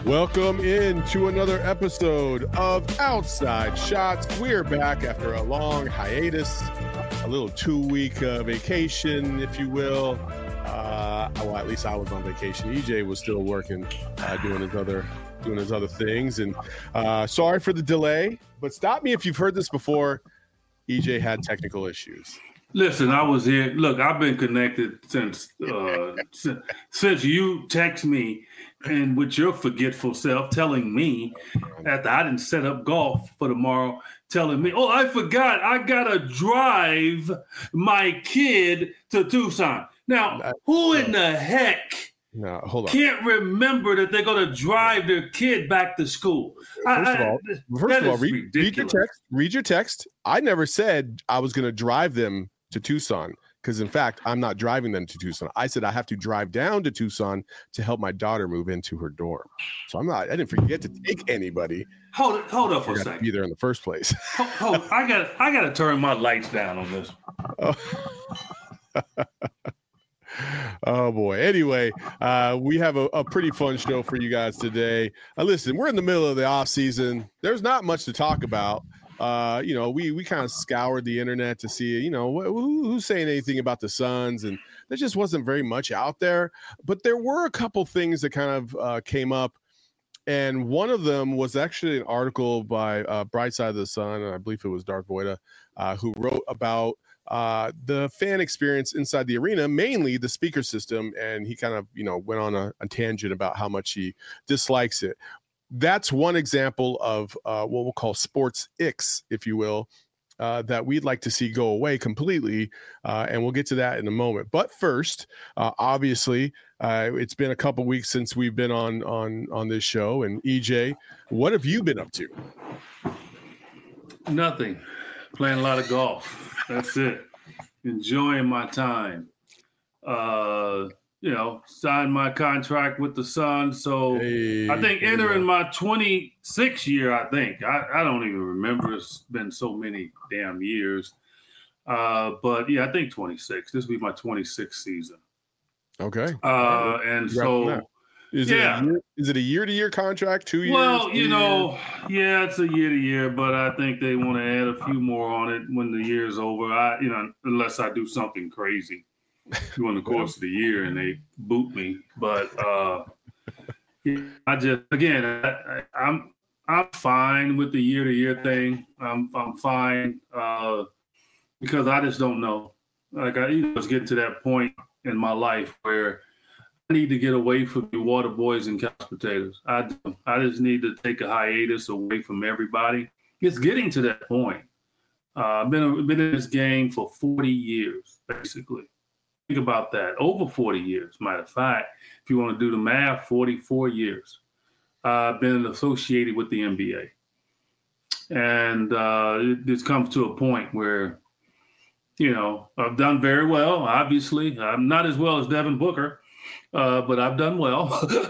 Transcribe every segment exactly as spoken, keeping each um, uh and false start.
Welcome into another episode of Outside Shots. We're back after a long hiatus, a little two-week uh, vacation, if you will. Uh, well, at least I was on vacation. E J was still working, uh, doing his other doing his other things. And uh, sorry for the delay, but stop me if you've heard this before. E J had technical issues. Listen, I was here. Look, I've been connected since uh, since, since you text me and with your forgetful self telling me after I didn't set up golf for tomorrow, telling me, oh, I forgot. I got to drive my kid to Tucson. Now, who in the heck no, hold on. can't remember that they're going to drive their kid back to school? First I, of all, I, first of all read, read your text. Read your text. I never said I was going to drive them to Tucson, because in fact, I'm not driving them to Tucson. I said I have to drive down to Tucson to help my daughter move into her dorm. So I'm not. I didn't forget to take anybody. Hold it. Hold up for a second. Be there in the first place. hold, hold, I got. I got to turn my lights down on this. Oh. Oh boy. Anyway, uh, we have a, a pretty fun show for you guys today. Uh, listen, we're in the middle of the off season. There's not much to talk about. Uh, you know, we we kind of scoured the internet to see, you know, who, who's saying anything about the Suns, and there just wasn't very much out there. But there were a couple things that kind of uh, came up, and one of them was actually an article by uh, Bright Side of the Sun, and I believe it was Darth Voida, uh, who wrote about uh, the fan experience inside the arena, mainly the speaker system, and he kind of, you know, went on a, a tangent about how much he dislikes it. That's one example of uh, what we'll call sports icks, if you will, uh, that we'd like to see go away completely. Uh, and we'll get to that in a moment. But first, uh, obviously, uh, it's been a couple weeks since we've been on, on, on this show. And E J, what have you been up to? Nothing. Playing a lot of golf. That's it. Enjoying my time. Uh You know, signed my contract with the Suns. So hey, I think entering yeah. my twenty-sixth year, I think. I, I don't even remember. It's been so many damn years. Uh, but, yeah, I think twenty-six. This will be my twenty-sixth season. Okay. Uh, and so, is yeah. It a year, is it a year-to-year contract, two years? Well, you know, yeah, it's a year-to-year, but I think they want to add a few more on it when the year's over. I, you know, unless I do something crazy during the course of the year and they boot me. But uh, I just, again, I, I, I'm I'm fine with the year-to-year thing. I'm I'm fine uh, because I just don't know. Like I you know, was getting to that point in my life where I need to get away from the water boys and couch potatoes. I I just need to take a hiatus away from everybody. It's getting to that point. Uh, I've been been in this game for forty years, basically. Think about that. Over forty years, matter of fact. If you want to do the math, forty-four years. I've uh, been associated with the N B A. And uh, it, it's come to a point where, you know, I've done very well, obviously. I'm not as well as Devin Booker, uh, but I've done well.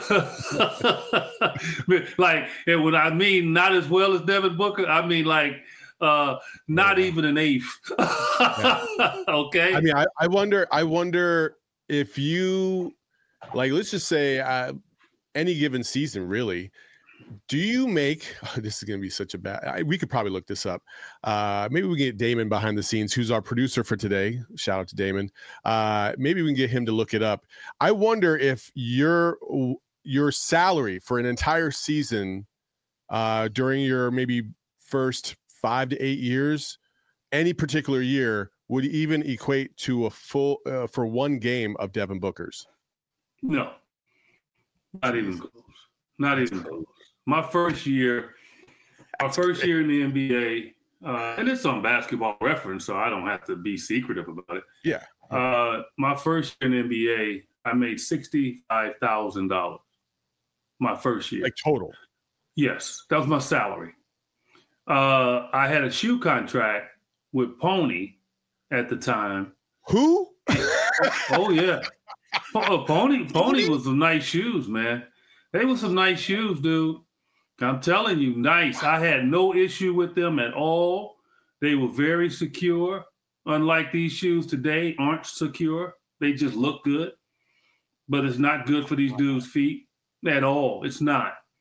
Like, and when I mean not as well as Devin Booker, I mean like, Uh, not yeah. even an eighth. Yeah. Okay. I mean, I, I wonder, I wonder if you, like, let's just say uh, any given season, really, do you make, oh, this is going to be such a bad, I, we could probably look this up. Uh, maybe we can get Damon behind the scenes, who's our producer for today. Shout out to Damon. Uh, maybe we can get him to look it up. I wonder if your, your salary for an entire season uh, during your maybe first five to eight years, any particular year would even equate to a full uh, for one game of Devin Booker's. No, not even close. Not even close. My first year, my first year in the N B A, uh, and it's on Basketball Reference, so I don't have to be secretive about it. Yeah. Uh, my first year in the N B A, I made sixty-five thousand dollars. My first year, like total. Yes, that was my salary. Uh, I had a shoe contract with Pony at the time. Who? Oh yeah, oh, Pony. Pony was some nice shoes, man. They were some nice shoes, dude. I'm telling you, nice. I had no issue with them at all. They were very secure. Unlike these shoes today, aren't secure. They just look good, but it's not good for these dudes' feet at all. It's not.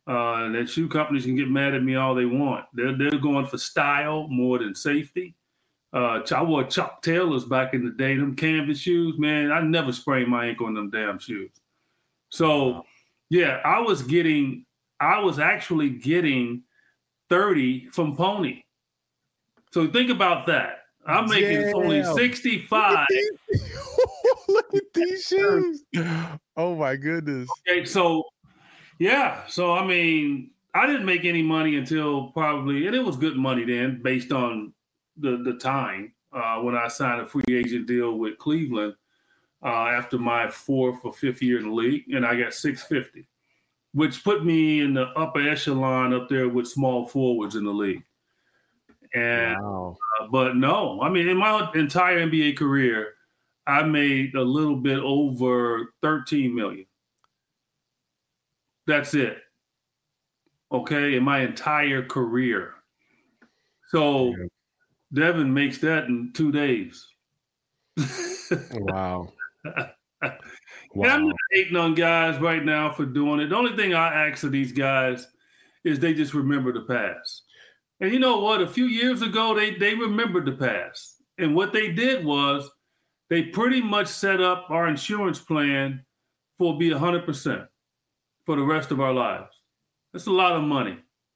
Uh, that shoe companies can get mad at me all they want. They're they're going for style more than safety. Uh, I wore Chuck Taylors back in the day, them canvas shoes, man. I never sprained my ankle on them damn shoes. So, wow. yeah, I was getting, I was actually getting thirty from Pony. So think about that. I'm making Damn. only sixty-five. Look at these shoes. Oh my goodness. Okay, so yeah, so I mean, I didn't make any money until probably, and it was good money then, based on the the time uh, when I signed a free agent deal with Cleveland uh, after my fourth or fifth year in the league, and I got six hundred fifty, which put me in the upper echelon up there with small forwards in the league. And wow. uh, but no, I mean, in my entire N B A career, I made a little bit over thirteen million. That's it. Okay, in my entire career. So yeah. Devin makes that in two days. Wow. Wow. I'm not hating on guys right now for doing it. The only thing I ask of these guys is they just remember the past. And you know what? A few years ago, they they remembered the past. And what they did was they pretty much set up our insurance plan for be one hundred percent for the rest of our lives. That's a lot of money.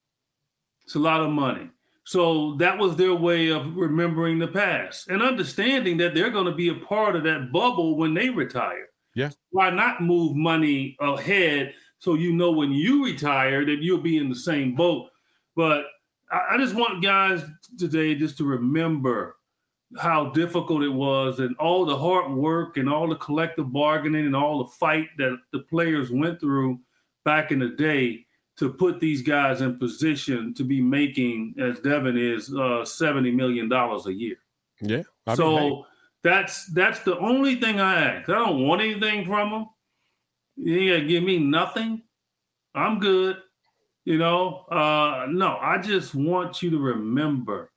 It's a lot of money. So that was their way of remembering the past and understanding that they're going to be a part of that bubble when they retire. Yeah. Why not move money ahead so you know when you retire that you'll be in the same boat? But I just want guys today just to remember how difficult it was and all the hard work and all the collective bargaining and all the fight that the players went through back in the day to put these guys in position to be making, as Devin is, uh, seventy million dollars a year. Yeah. I mean, so hey. that's that's the only thing I ask. I don't want anything from them. You ain't got to give me nothing. I'm good. You know, uh, no, I just want you to remember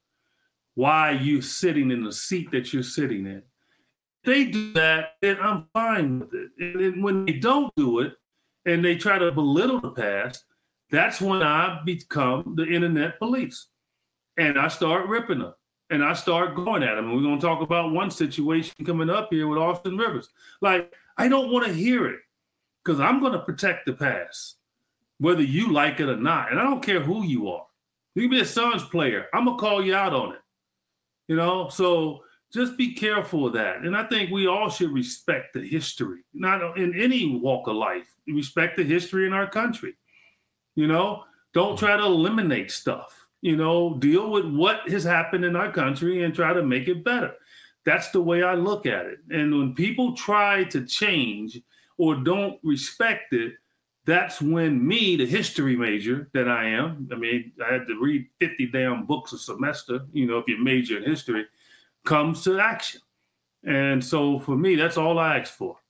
why you're sitting in the seat that you're sitting in. If they do that, then I'm fine with it. And when they don't do it and they try to belittle the past, that's when I become the internet police. And I start ripping them. And I start going at them. And we're going to talk about one situation coming up here with Austin Rivers. Like, I don't want to hear it because I'm going to protect the past, whether you like it or not. And I don't care who you are. You can be a Suns player. I'm going to call you out on it. You know, so just be careful of that. And I think we all should respect the history, not in any walk of life. Respect the history in our country. You know, don't try to eliminate stuff. You know, deal with what has happened in our country and try to make it better. That's the way I look at it. And when people try to change or don't respect it, that's when me, the history major that I am, I mean, I had to read fifty damn books a semester, you know, if you major in history, comes to action. And so for me, that's all I ask for.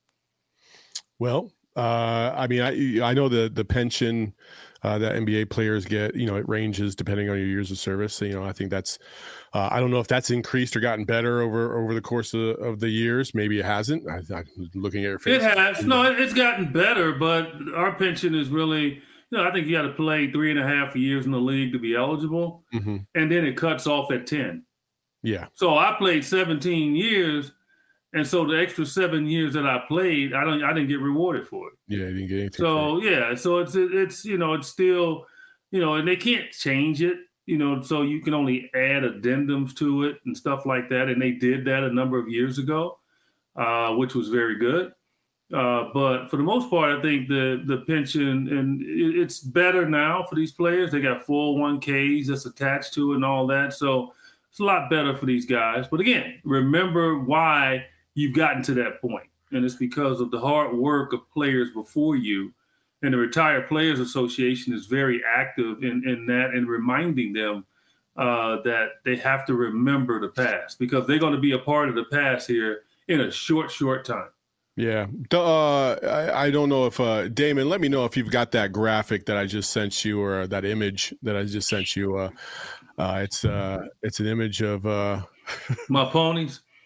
Well, uh, I mean, I I know the the pension uh, that N B A players get, you know, it ranges depending on your years of service. So, you know, I think that's, uh, I don't know if that's increased or gotten better over, over the course of, of the years. Maybe it hasn't. I, I'm looking at your face. It has. No, it's gotten better, but our pension is really, you know, I think you got to play three and a half years in the league to be eligible. Mm-hmm. And then it cuts off at ten. Yeah. So I played seventeen years. And so the extra seven years that I played, I don't, I didn't get rewarded for it. Yeah, I didn't get anything. So yeah, so it's it's you know it's still, you know, and they can't change it, you know, so you can only add addendums to it and stuff like that. And they did that a number of years ago, uh, which was very good. Uh, but for the most part, I think the the pension and it, it's better now for these players. They got four oh one k's that's attached to it and all that, so it's a lot better for these guys. But again, remember why you've gotten to that point. And it's because of the hard work of players before you. And the Retired Players Association is very active in, in that and reminding them uh, that they have to remember the past because they're going to be a part of the past here in a short, short time. Yeah. Uh, I, I don't know if, uh, Damon, let me know if you've got that graphic that I just sent you or that image that I just sent you. Uh, uh, it's uh, it's an image of uh... my ponies.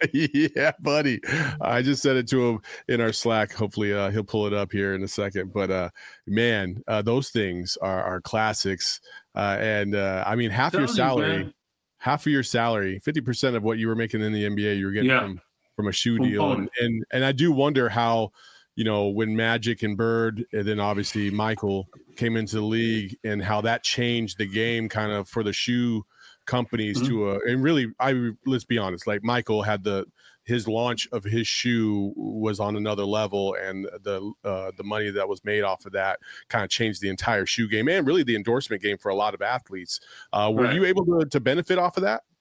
Yeah, buddy. I just sent it to him in our Slack. Hopefully uh, he'll pull it up here in a second. But uh, man, uh, those things are, are classics. Uh, and uh, I mean, half your salary, you, half of your salary, fifty percent of what you were making in the N B A, you were getting yeah. from, from a shoe from deal. And, and, and I do wonder how, you know, when Magic and Bird, and then obviously Michael came into the league, and how that changed the game kind of for the shoe companies mm-hmm. to a, and really, I let's be honest, like Michael had the his launch of his shoe was on another level, and the uh, the money that was made off of that kind of changed the entire shoe game and really the endorsement game for a lot of athletes. Uh, were right. you able to, to benefit off of that?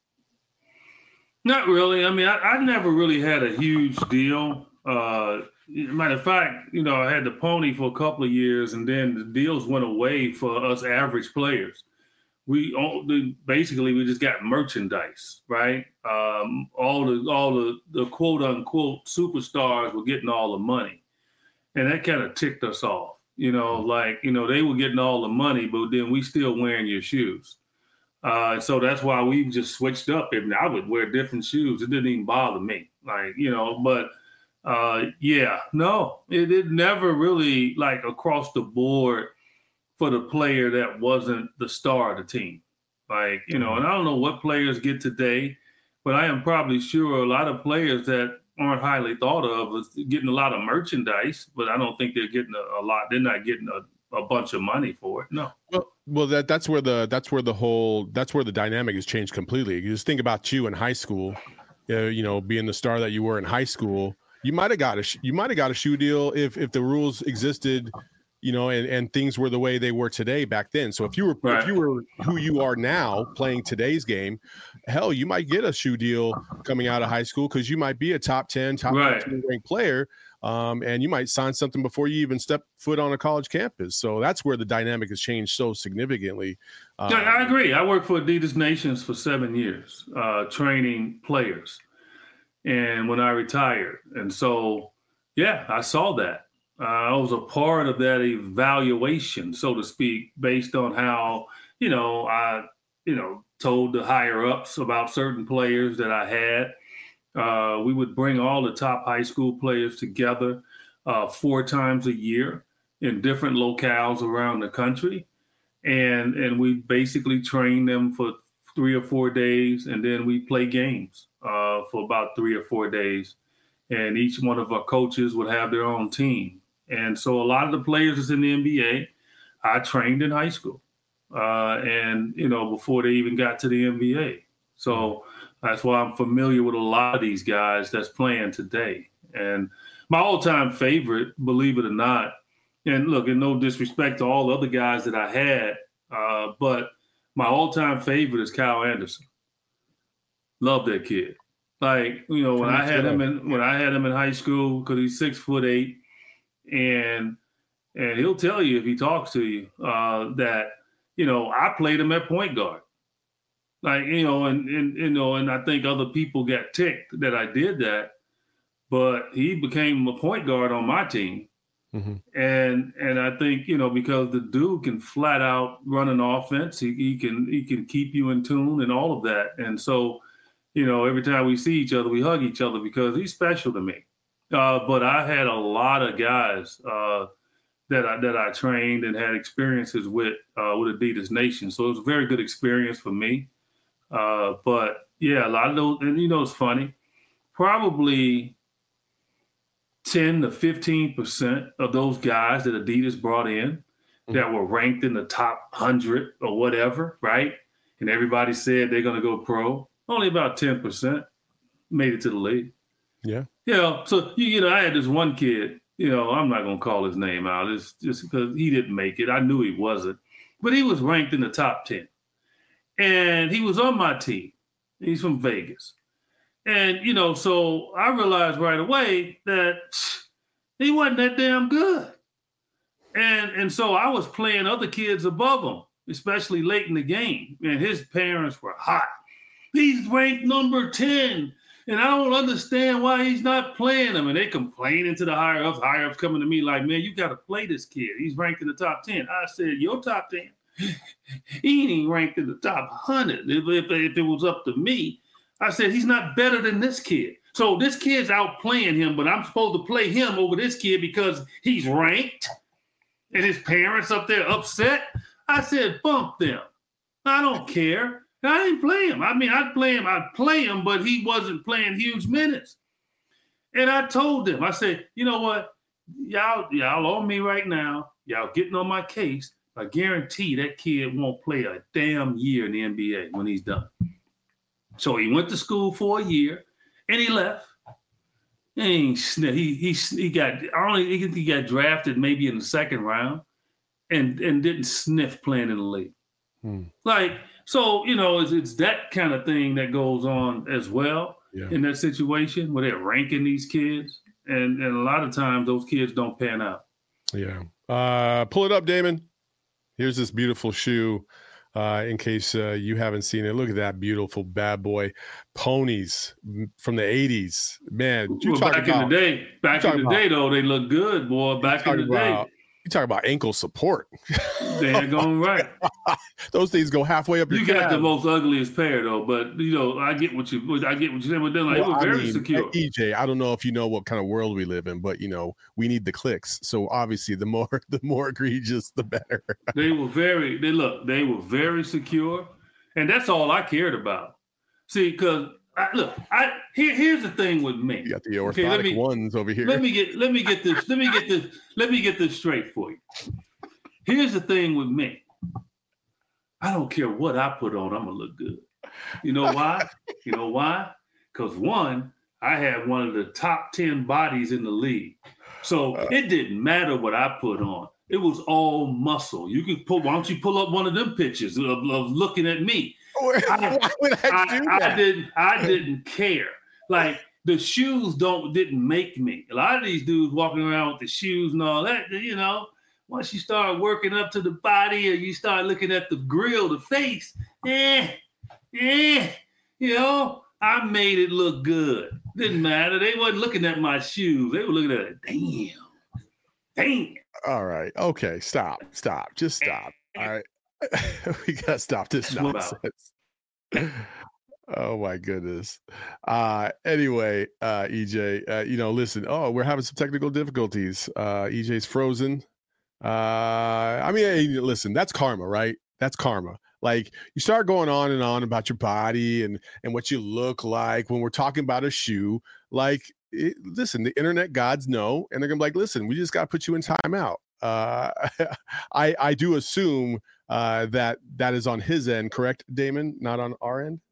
Not really. I mean, I, I never really had a huge deal. Uh, matter of fact, you know, I had the pony for a couple of years, and then the deals went away for us average players. We all, basically we just got merchandise, right? Um, all the all the, the quote unquote superstars were getting all the money, and that kind of ticked us off. You know, like you know they were getting all the money, but then we still wearing your shoes. Uh, so that's why we just switched up. And I would wear different shoes. It didn't even bother me, like you know. But uh, yeah, no, it, it never really like across the board for the player that wasn't the star of the team. Like, you know, and I don't know what players get today, but I am probably sure a lot of players that aren't highly thought of is getting a lot of merchandise, but I don't think they're getting a, a lot. They're not getting a, a bunch of money for it. No. Well, well, that that's where the that's where the whole that's where the dynamic has changed completely. You just think about you in high school, uh, you know, being the star that you were in high school. You might have got a you might have got a shoe deal if if the rules existed, you know, and, and things were the way they were today back then. So if you were right. if you were who you are now playing today's game, hell, you might get a shoe deal coming out of high school because you might be a top ten, top right. fifteen ranked player, um, and you might sign something before you even step foot on a college campus. So that's where the dynamic has changed so significantly. Um, yeah, I agree. I worked for Adidas Nations for seven years, uh, training players, and when I retired, and so yeah, I saw that. Uh, I was a part of that evaluation, so to speak, based on how, you know, I, you know, told the higher ups about certain players that I had. Uh, we would bring all the top high school players together uh, four times a year in different locales around the country. And, and we basically train them for three or four days, and then we play games uh, for about three or four days. And each one of our coaches would have their own team. And so a lot of the players that's in the N B A, I trained in high school. Uh, and, you know, before they even got to the N B A. So that's why I'm familiar with a lot of these guys that's playing today. And my all-time favorite, believe it or not, and look, and no disrespect to all the other guys that I had, uh, but my all-time favorite is Kyle Anderson. Love that kid. Like, you know, when I had him in when I had him in high school, because he's six foot eight. And and he'll tell you if he talks to you uh, that, you know, I played him at point guard. Like, you know, and, and, you know, and I think other people got ticked that I did that, but he became a point guard on my team. Mm-hmm. And and I think, you know, because the dude can flat out run an offense, he, he can he can keep you in tune and all of that. And so, you know, every time we see each other, we hug each other because he's special to me. Uh, but I had a lot of guys uh, that I that I trained and had experiences with uh, with Adidas Nation, so it was a very good experience for me. Uh, but yeah, a lot of those, and you know, it's funny. Probably ten to fifteen percent of those guys that Adidas brought in mm-hmm. that were ranked in the top hundred or whatever, right? And everybody said they're going to go pro. Only about ten percent made it to the league. Yeah. You know, so, you, you know, I had this one kid, you know, I'm not going to call his name out. It's just because he didn't make it. I knew he wasn't. But he was ranked in the top ten. And he was on my team. He's from Vegas. And, you know, so I realized right away that he wasn't that damn good. And, and so I was playing other kids above him, especially late in the game. And his parents were hot. He's ranked number ten. And I don't understand why he's not playing him. And they complaining to the higher ups, higher ups coming to me like, man, you got to play this kid. He's ranked in the top ten. I said, your top ten? He ain't even ranked in the top one hundred. If, if, if it was up to me, I said, he's not better than this kid. So this kid's outplaying him, but I'm supposed to play him over this kid because he's ranked and his parents up there upset. I said, bump them. I don't care. I didn't play him. I mean, I'd play him. I'd play him, but he wasn't playing huge minutes. And I told them, I said, you know what? Y'all, y'all on me right now. Y'all getting on my case. I guarantee that kid won't play a damn year in the N B A when he's done. So he went to school for a year, and he left. He he he, he got only he got drafted maybe in the second round, and and didn't sniff playing in the league. Hmm. Like so, you know, it's it's that kind of thing that goes on as well yeah. in that situation where they're ranking these kids, and and a lot of times those kids don't pan out. Yeah, uh, pull it up, Damon. Here's this beautiful shoe. Uh, in case uh, you haven't seen it, look at that beautiful bad boy. Ponies from the eighties. Man, you well, talk back about, in the day, back in the about, day, though, they look good, boy. Back in the about, day. You talk about ankle support. They're going right. Those things go halfway up your You calf. got the most ugliest pair, though. But, you know, I get what you I get what you're saying. But then, like, well, it was very I mean, secure. E J, I don't know if you know what kind of world we live in, but, you know, we need the clicks. So, obviously, the more the more egregious, the better. They were very, they look, they were very secure. And that's all I cared about. See, because, look, I here, here's the thing with me. You got the orthotic okay, me, ones over here. Let me get let me get this, let me get this, let me get this straight for you. Here's the thing with me. I don't care what I put on, I'm gonna look good. You know why? You know why? Because one, I had one of the top ten bodies in the league. So uh, it didn't matter what I put on. It was all muscle. You could pull, why don't you pull up one of them pictures of, of looking at me? I, why would I, I do that? I didn't I didn't care. Like the shoes don't didn't make me. A lot of these dudes walking around with the shoes and all that, you know. Once you start working up to the body or you start looking at the grill, the face, eh, eh, you know, I made it look good. Didn't matter. They wasn't looking at my shoes. They were looking at it. Damn. Damn. All right. Okay. Stop. Stop. Just stop. All right. We got to stop this nonsense. Oh my goodness. Uh, anyway, uh, E J, uh, you know, listen, oh, we're having some technical difficulties. Uh, E J's frozen. Uh, I mean, hey, listen, that's karma, right? That's karma. Like you start going on and on about your body and, and what you look like when we're talking about a shoe, like, it, listen, the internet gods know, and they're gonna be like, listen, we just got to put you in timeout. Uh, I, I do assume uh, that that is on his end, correct, Damon? Not on our end?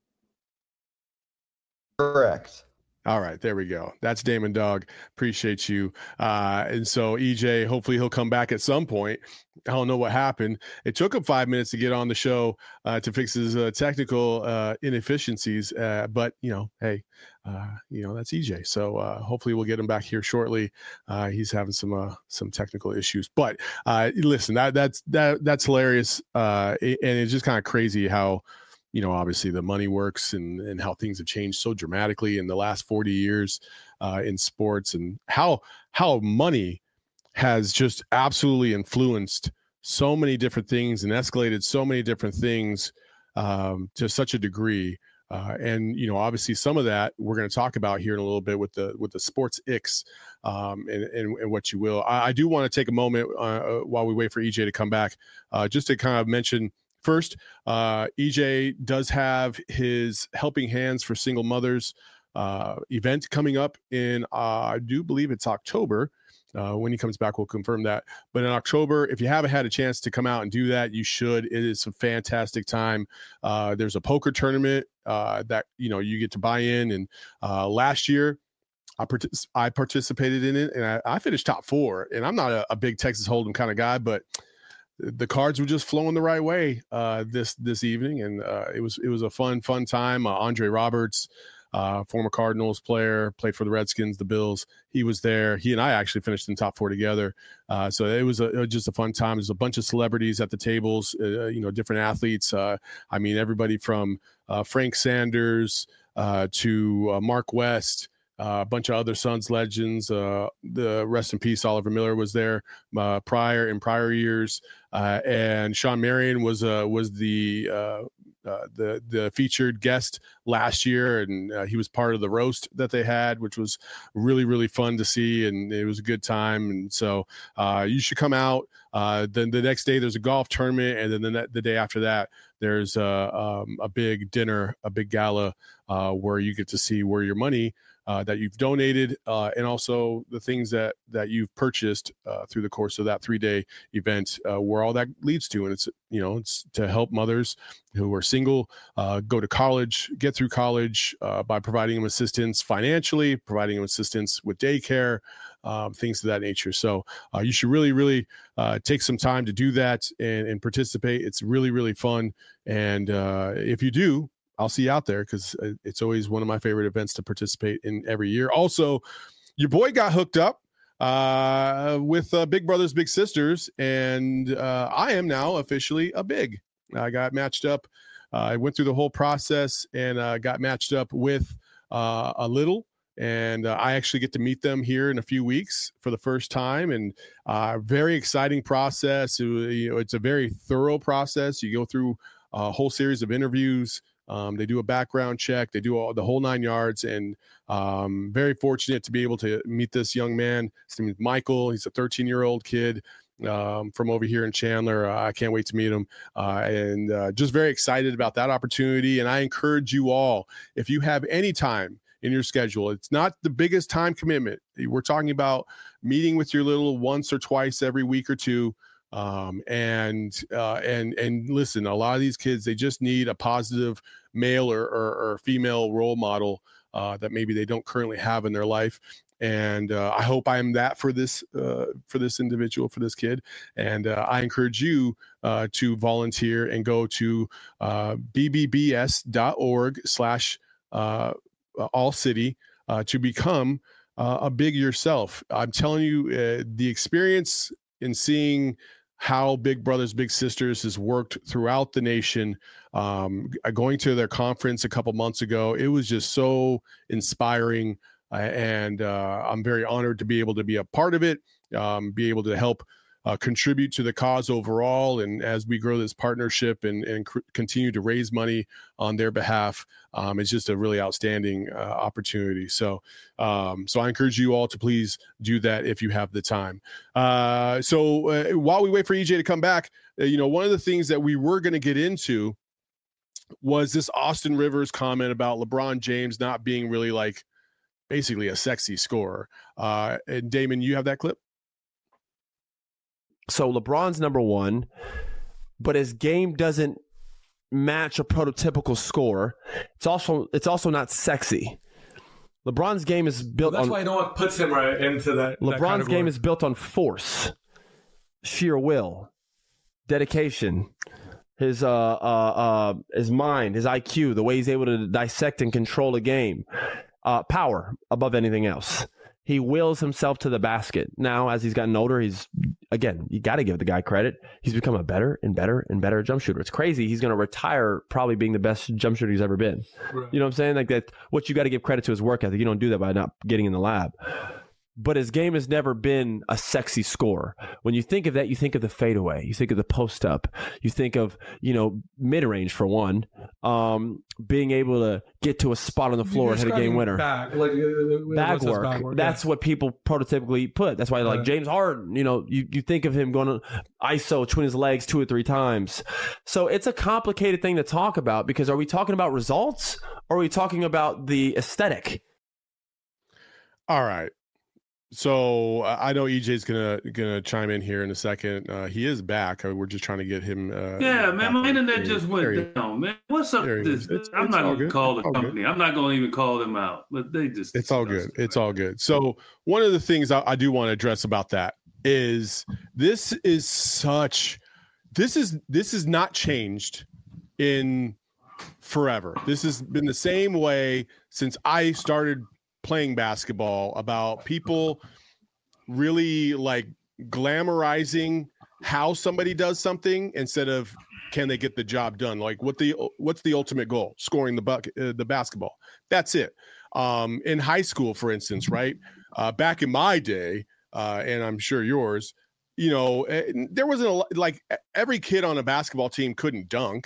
Correct. All right, there we go. That's Damon Dog. Appreciate you. Uh, and so E J, hopefully he'll come back at some point. I don't know what happened. It took him five minutes to get on the show uh, to fix his uh, technical uh, inefficiencies. Uh, but, you know, hey, uh, you know, that's E J. So uh, hopefully we'll get him back here shortly. Uh, he's having some uh, some technical issues. But uh, listen, that that's that that's hilarious. Uh, and it's just kind of crazy how, you know, obviously the money works and, and how things have changed so dramatically in the last forty years uh, in sports, and how how money has just absolutely influenced so many different things and escalated so many different things um, to such a degree. Uh, and, you know, obviously some of that we're going to talk about here in a little bit with the with the sports icks um, and, and, and what you will. I, I do want to take a moment uh, while we wait for E J to come back uh, just to kind of mention first, uh, E J does have his Helping Hands for Single Mothers uh, event coming up in, uh, I do believe it's October. Uh, when he comes back, we'll confirm that. But in October, if you haven't had a chance to come out and do that, you should. It is a fantastic time. Uh, there's a poker tournament uh, that, you know, you get to buy in. And uh, last year, I, partic- I participated in it, and I, I finished top four. And I'm not a, a big Texas Hold'em kind of guy, but the cards were just flowing the right way uh, this this evening, and uh, it was it was a fun fun time. Uh, Andre Roberts, uh, former Cardinals player, played for the Redskins, the Bills. He was there. He and I actually finished in top four together. Uh, so it was, a, it was just a fun time. There's a bunch of celebrities at the tables, uh, you know, different athletes. Uh, I mean, everybody from uh, Frank Sanders uh, to uh, Mark West. Uh, a bunch of other Suns legends. Uh, the rest in peace, Oliver Miller was there uh, prior in prior years, uh, and Sean Marion was uh, was the uh, uh, the the featured guest last year, and uh, he was part of the roast that they had, which was really really fun to see, and it was a good time. And so uh, you should come out. Uh, then the next day there's a golf tournament, and then the, the day after that there's a, um, a big dinner, a big gala uh, where you get to see where your money Uh, that you've donated, uh, and also the things that that you've purchased uh, through the course of that three-day event, uh, where all that leads to. And it's, you know, it's to help mothers who are single uh, go to college, get through college uh, by providing them assistance financially, providing them assistance with daycare, um, things of that nature. So uh, you should really, really uh, take some time to do that and, and participate. It's really, really fun. And uh, if you do, I'll see you out there, because it's always one of my favorite events to participate in every year. Also, your boy got hooked up uh, with uh, Big Brothers Big Sisters, and uh, I am now officially a big. I got matched up. Uh, I went through the whole process and uh, got matched up with uh, a little, and uh, I actually get to meet them here in a few weeks for the first time, and uh, very exciting process. It, you know, it's a very thorough process. You go through a whole series of interviews. Um, they do a background check. They do all the whole nine yards, and um, very fortunate to be able to meet this young man. His name is Michael. He's a thirteen-year-old kid um, from over here in Chandler. Uh, I can't wait to meet him, uh, and uh, just very excited about that opportunity. And I encourage you all, if you have any time in your schedule, it's not the biggest time commitment. We're talking about meeting with your little once or twice every week or two. Um, and, uh, and, and listen, a lot of these kids, they just need a positive male or, or, or female role model, uh, that maybe they don't currently have in their life. And, uh, I hope I am that for this, uh, for this individual, for this kid. And, uh, I encourage you, uh, to volunteer and go to, uh, b b b s dot org slash, uh, all city, uh, to become, uh, a big yourself. I'm telling you, uh, the experience in seeing how Big Brothers Big Sisters has worked throughout the nation. Um, going to their conference a couple months ago, it was just so inspiring, uh, and uh, I'm very honored to be able to be a part of it, um, be able to help uh, contribute to the cause overall. And as we grow this partnership and, and cr- continue to raise money on their behalf, um, it's just a really outstanding uh, opportunity. So, um, so I encourage you all to please do that if you have the time. Uh, so uh, while we wait for E J to come back, uh, you know, one of the things that we were going to get into was this Austin Rivers comment about LeBron James not being really like basically a sexy scorer. Uh, and Damon, you have that clip? So LeBron's number one, but his game doesn't match a prototypical scorer. It's also it's also not sexy. LeBron's game is built well, that's on. That's why no one puts him right into that. LeBron's that game is built on force, sheer will, dedication, his uh uh uh his mind, his I Q, the way he's able to dissect and control a game, uh, power above anything else. He wills himself to the basket. Now, as he's gotten older, he's, again, you got to give the guy credit. He's become a better and better and better jump shooter. It's crazy. He's going to retire probably being the best jump shooter he's ever been. Right. You know what I'm saying? Like that. What you got to give credit to his work ethic. You don't do that by not getting in the lab. But his game has never been a sexy score. When you think of that, you think of the fadeaway. You think of the post up. You think of, you know, mid range for one. Um, being able to get to a spot on the floor and hit a game winner. Bag, like, bag work. Bag work. That's yeah. what people prototypically put. That's why, like yeah. James Harden, you know, you, you think of him going to I S O, twin his legs two or three times. So it's a complicated thing to talk about, because are we talking about results or are we talking about the aesthetic? All right. So uh, I know E J's gonna gonna chime in here in a second. Uh, he is back. Uh, we're just trying to get him. Uh, yeah, man, my internet just went down, man. What's up with this? It's, I'm it's not gonna good. call the all company. Good. I'm not gonna even call them out. But they just. It's all good. It's all good. So one of the things I, I do want to address about that is this is such. This is this is not changed in forever. This has been the same way since I started playing basketball, about people really like glamorizing how somebody does something instead of can they get the job done. Like what the what's the ultimate goal? Scoring the bucket, uh, the basketball. That's it. Um, in high school, for instance, right? Uh, back in my day, uh, and I'm sure yours, you know, there wasn't a, like every kid on a basketball team couldn't dunk.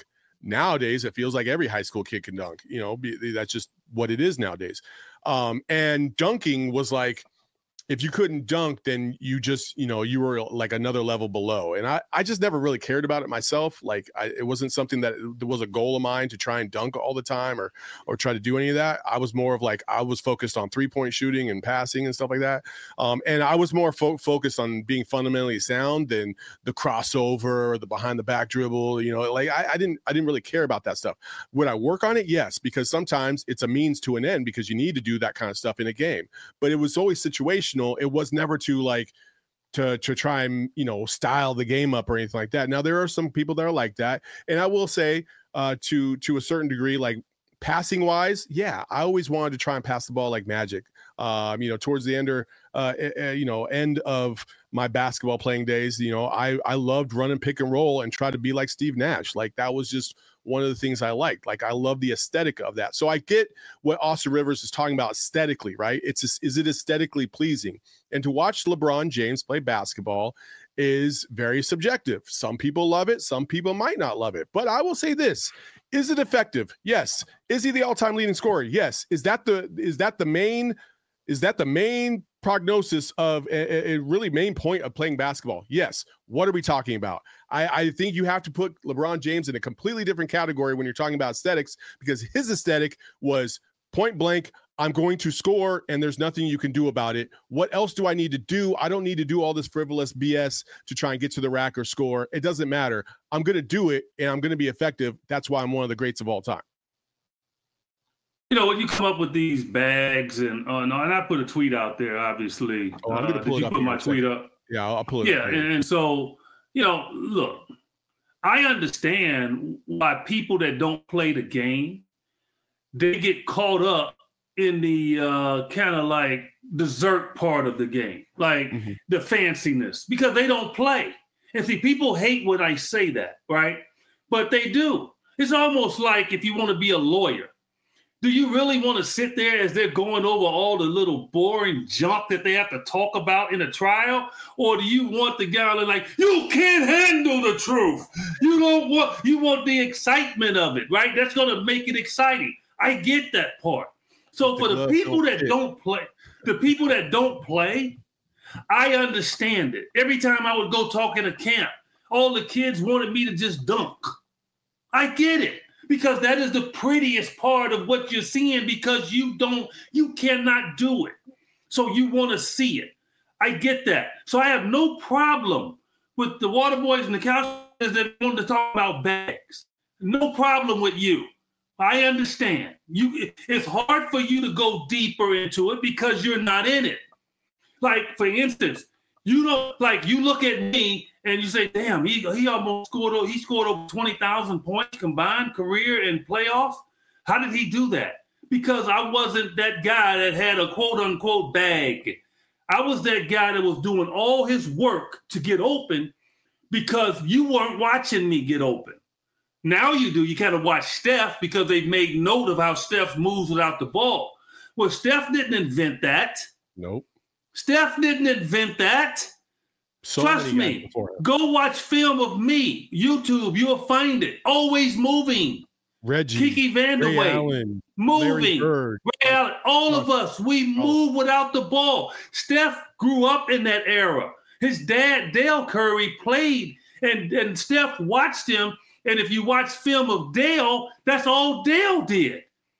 Nowadays, it feels like every high school kid can dunk. You know, be, that's just what it is nowadays. Um, and dunking was like, if you couldn't dunk, then you just, you know, you were like another level below. And I, I just never really cared about it myself. Like I, it wasn't something that it was a goal of mine to try and dunk all the time or, or try to do any of that. I was more of like, I was focused on three point shooting and passing and stuff like that. Um, and I was more fo- focused on being fundamentally sound than the crossover, the behind the back dribble, you know, like I, I didn't, I didn't really care about that stuff. Would I work on it? Yes, because sometimes it's a means to an end because you need to do that kind of stuff in a game, but it was always situational. It was never to like to to try and, you know, style the game up or anything like that. Now there are some people that are like that, and I will say uh, to to a certain degree, like passing wise, yeah, I always wanted to try and pass the ball like magic. Um, you know, towards the end or uh, uh, you know end of my basketball playing days, you know, I I loved running pick and roll and try to be like Steve Nash. Like that was just one of the things I liked. Like I love the aesthetic of that. So I get what Austin Rivers is talking about aesthetically, right? It's is it aesthetically pleasing? And to watch LeBron James play basketball is very subjective. Some people love it. Some people might not love it. But I will say this: is it effective? Yes. Is he the all-time leading scorer? Yes. Is that the is that the main is that the main prognosis of a, a really main point of playing basketball? Yes. What are we talking about? I, I think you have to put LeBron James in a completely different category when you're talking about aesthetics, because his aesthetic was point blank, I'm going to score and there's nothing you can do about it. What else do I need to do? I don't need to do all this frivolous B S to try and get to the rack or score. It doesn't matter. I'm going to do it and I'm going to be effective. That's why I'm one of the greats of all time. You know, when you come up with these bags and uh, no, and I put a tweet out there, obviously. Oh, I'm going to pull uh, it you up. put my tweet up? Yeah, I'll, I'll pull it yeah, up. Yeah, and, and so, you know, look, I understand why people that don't play the game, they get caught up in the uh, kind of like dessert part of the game, like mm-hmm. the fanciness, because they don't play. And see, people hate when I say that, right? But they do. It's almost like if you want to be a lawyer, do you really want to sit there as they're going over all the little boring junk that they have to talk about in a trial? Or do you want the guy that's like, you can't handle the truth. You don't want, you want the excitement of it, right? That's going to make it exciting. I get that part. So for the people that don't play, the people that don't play, I understand it. Every time I would go talk in a camp, all the kids wanted me to just dunk. I get it. Because that is the prettiest part of what you're seeing, because you don't, you cannot do it. So you want to see it. I get that. So I have no problem with the water boys and the counselors that want to talk about bags. No problem with you. I understand. You, it's hard for you to go deeper into it because you're not in it. Like, for instance, you know, like you look at me and you say, damn, he he almost scored, he scored over twenty thousand points combined career and playoffs. How did he do that? Because I wasn't that guy that had a quote unquote bag. I was that guy that was doing all his work to get open because you weren't watching me get open. Now you do. You kind of watch Steph because they've made note of how Steph moves without the ball. Well, Steph didn't invent that. Nope. Steph didn't invent that. So Trust me. Go watch film of me. YouTube, you'll find it. Always moving. Reggie. Kiki Vanderway. Moving. Ray Allen. All of us, we move without the ball. Steph grew up in that era. His dad, Dale Curry, played, and, and Steph watched him. And if you watch film of Dale, that's all Dale did.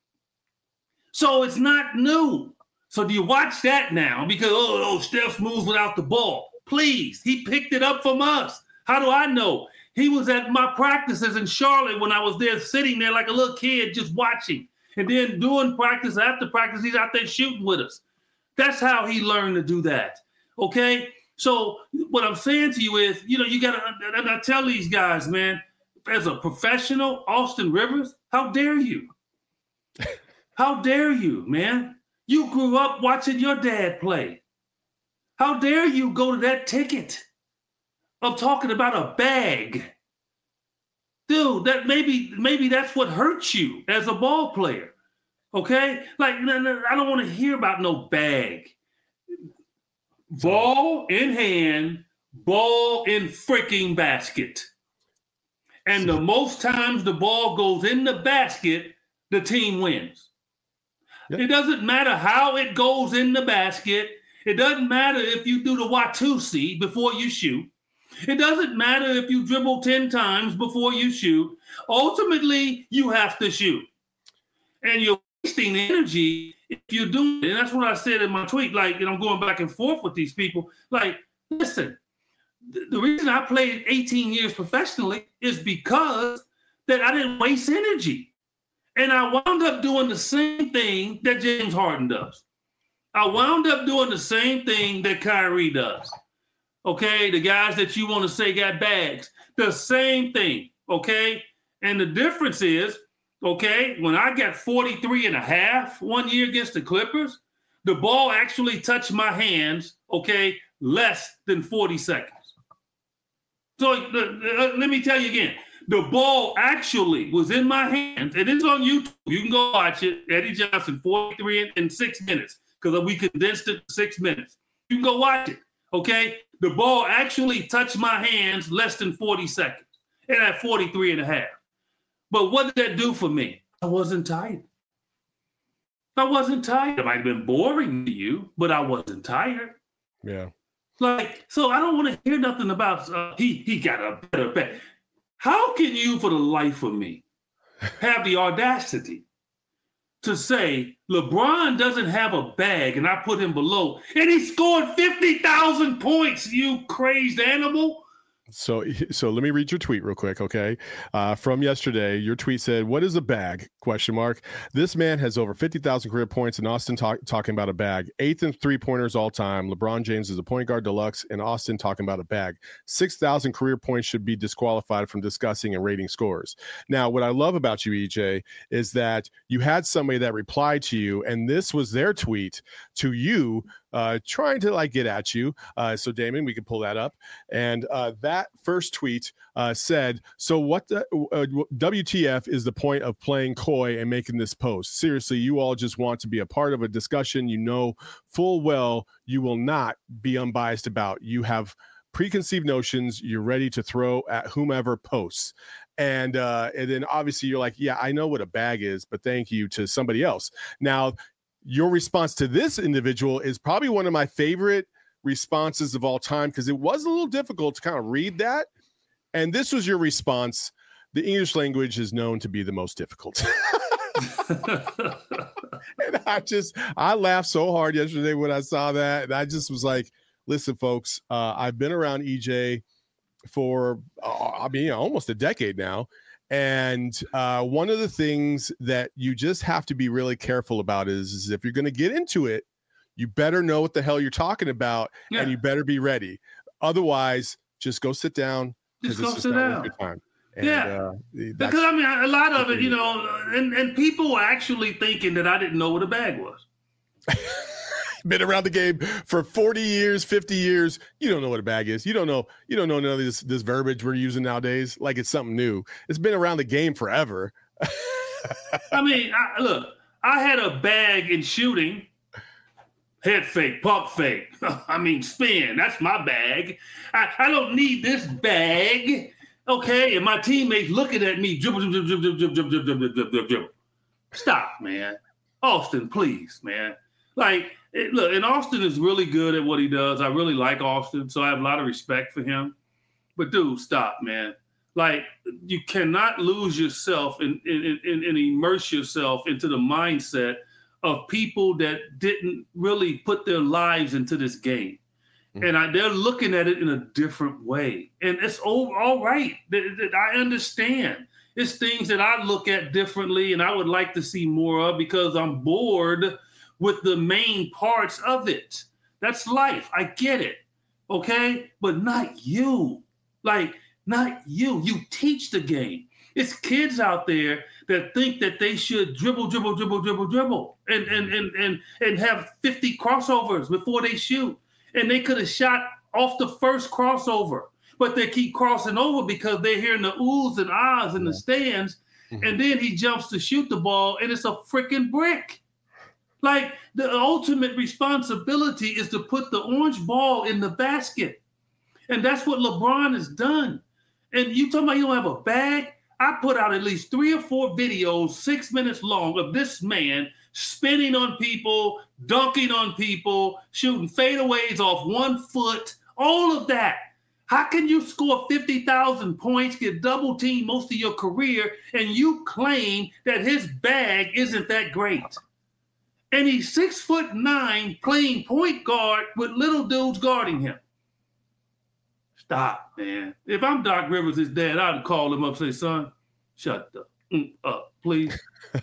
So it's not new. So do you watch that now? Because, oh, oh, Steph moves without the ball. Please, he picked it up from us. How do I know? He was at my practices in Charlotte when I was there sitting there like a little kid just watching. And then doing practice after practice, he's out there shooting with us. That's how he learned to do that, okay? So what I'm saying to you is, you know, you got to, and I tell these guys, man, as a professional, Austin Rivers, how dare you? How dare you, man? You grew up watching your dad play. How dare you go to that ticket of talking about a bag? Dude, that maybe maybe that's what hurts you as a ball player. Okay? Like, no, no, I don't want to hear about no bag. Ball in hand, ball in freaking basket. And the most times the ball goes in the basket, the team wins. Yep. It doesn't matter how it goes in the basket. It doesn't matter if you do the Watusi before you shoot. It doesn't matter if you dribble ten times before you shoot. Ultimately, you have to shoot. And you're wasting energy if you do it. And that's what I said in my tweet. Like, and I'm going back and forth with these people. Like, listen, th- the reason I played eighteen years professionally is because that I didn't waste energy. And I wound up doing the same thing that James Harden does. I wound up doing the same thing that Kyrie does. Okay, the guys that you want to say got bags, the same thing. Okay, and the difference is, okay, when I got forty-three and a half one year against the Clippers, the ball actually touched my hands, okay, less than forty seconds. So uh, let me tell you again, the ball actually was in my hands, and it's on YouTube. You can go watch it. Eddie Johnson, forty-three in six minutes, because we condensed it to six minutes. You can go watch it, okay? The ball actually touched my hands less than forty seconds, and at forty-three and a half. But what did that do for me? I wasn't tired. I wasn't tired. It might have been boring to you, but I wasn't tired. Yeah. Like, so I don't want to hear nothing about uh, he he got a better bag. How can you, for the life of me, have the audacity to say LeBron doesn't have a bag and I put him below and he scored fifty thousand points, you crazed animal? So, so let me read your tweet real quick, okay? Uh, from yesterday, your tweet said, "What is a bag?" Question mark. This man has over fifty thousand career points, and Austin talk, talking about a bag. Eighth in three pointers all time. LeBron James is a point guard deluxe, and Austin talking about a bag. Six thousand career points should be disqualified from discussing and rating scores. Now, what I love about you, E J, is that you had somebody that replied to you, and this was their tweet to you. Uh, trying to like get at you. Uh, so Damon, we can pull that up. And uh, that first tweet uh, said, so what the uh, W T F is the point of playing coy and making this post? Seriously, you all just want to be a part of a discussion you know full well you will not be unbiased about. You have preconceived notions you're ready to throw at whomever posts. And, uh, and then obviously you're like, yeah, I know what a bag is, but thank you to somebody else. Now, your response to this individual is probably one of my favorite responses of all time, because it was a little difficult to kind of read that. And this was your response. The English language is known to be the most difficult. And I just, I laughed so hard yesterday when I saw that. And I just was like, listen, folks, uh, I've been around E J for, uh, I mean, almost a decade now. And uh, one of the things that you just have to be really careful about is, is if you're going to get into it, you better know what the hell you're talking about, yeah. And you better be ready. Otherwise, just go sit down. Just go sit down. Your time. And, yeah, uh, because I mean, a lot of it, you know, and, and people were actually thinking that I didn't know what a bag was. Been around the game for forty years, fifty years. You don't know what a bag is. You don't know. You don't know none of this this verbiage we're using nowadays. Like it's something new. It's been around the game forever. I mean, I, look, I had a bag in shooting. Head fake, pump fake. I mean, spin. That's my bag. I, I don't need this bag. Okay, and my teammates looking at me. Dribble, dribble, dribble, dribble, dribble, dribble, dribble, dribble, dribble. Stop, man. Austin, please, man. Like. It, look, and Austin is really good at what he does. I really like Austin, so I have a lot of respect for him. But, dude, stop, man. Like, you cannot lose yourself and, and, and, and immerse yourself into the mindset of people that didn't really put their lives into this game. Mm-hmm. And I, they're looking at it in a different way. And it's all, all right. I understand. It's things that I look at differently and I would like to see more of because I'm bored with the main parts of it. That's life. I get it. Okay? But not you. Like, not you. You teach the game. It's kids out there that think that they should dribble, dribble, dribble, dribble, dribble, and and and and, and have fifty crossovers before they shoot. And they could have shot off the first crossover, but they keep crossing over because they're hearing the oohs and ahs in the stands. Mm-hmm. And then he jumps to shoot the ball, and it's a freaking brick. Like, the ultimate responsibility is to put the orange ball in the basket. And that's what LeBron has done. And you talking about you don't have a bag? I put out at least three or four videos, six minutes long, of this man spinning on people, dunking on people, shooting fadeaways off one foot, all of that. How can you score fifty thousand points, get double teamed most of your career, and you claim that his bag isn't that great? And he's six foot nine playing point guard with little dudes guarding him. Stop, man. If I'm Doc Rivers' his dad, I'd call him up and say, son, shut the mm, up, please.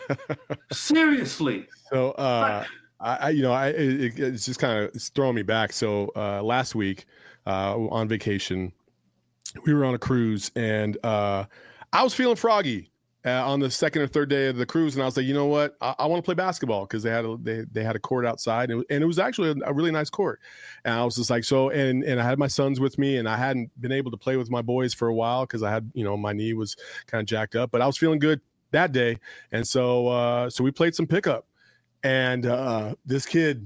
Seriously. So, uh, I, I, you know, I it, it's just kind of throwing me back. So uh, last week uh, on vacation, we were on a cruise, and uh, I was feeling froggy uh, on the second or third day of the cruise, and I was like, you know what, I, I want to play basketball because they had a, they they had a court outside, and it, and it was actually a, a really nice court. And I was just like, so, and and I had my sons with me, and I hadn't been able to play with my boys for a while because I had, you know, my knee was kind of jacked up, but I was feeling good that day, and so uh, so we played some pickup. And uh, this kid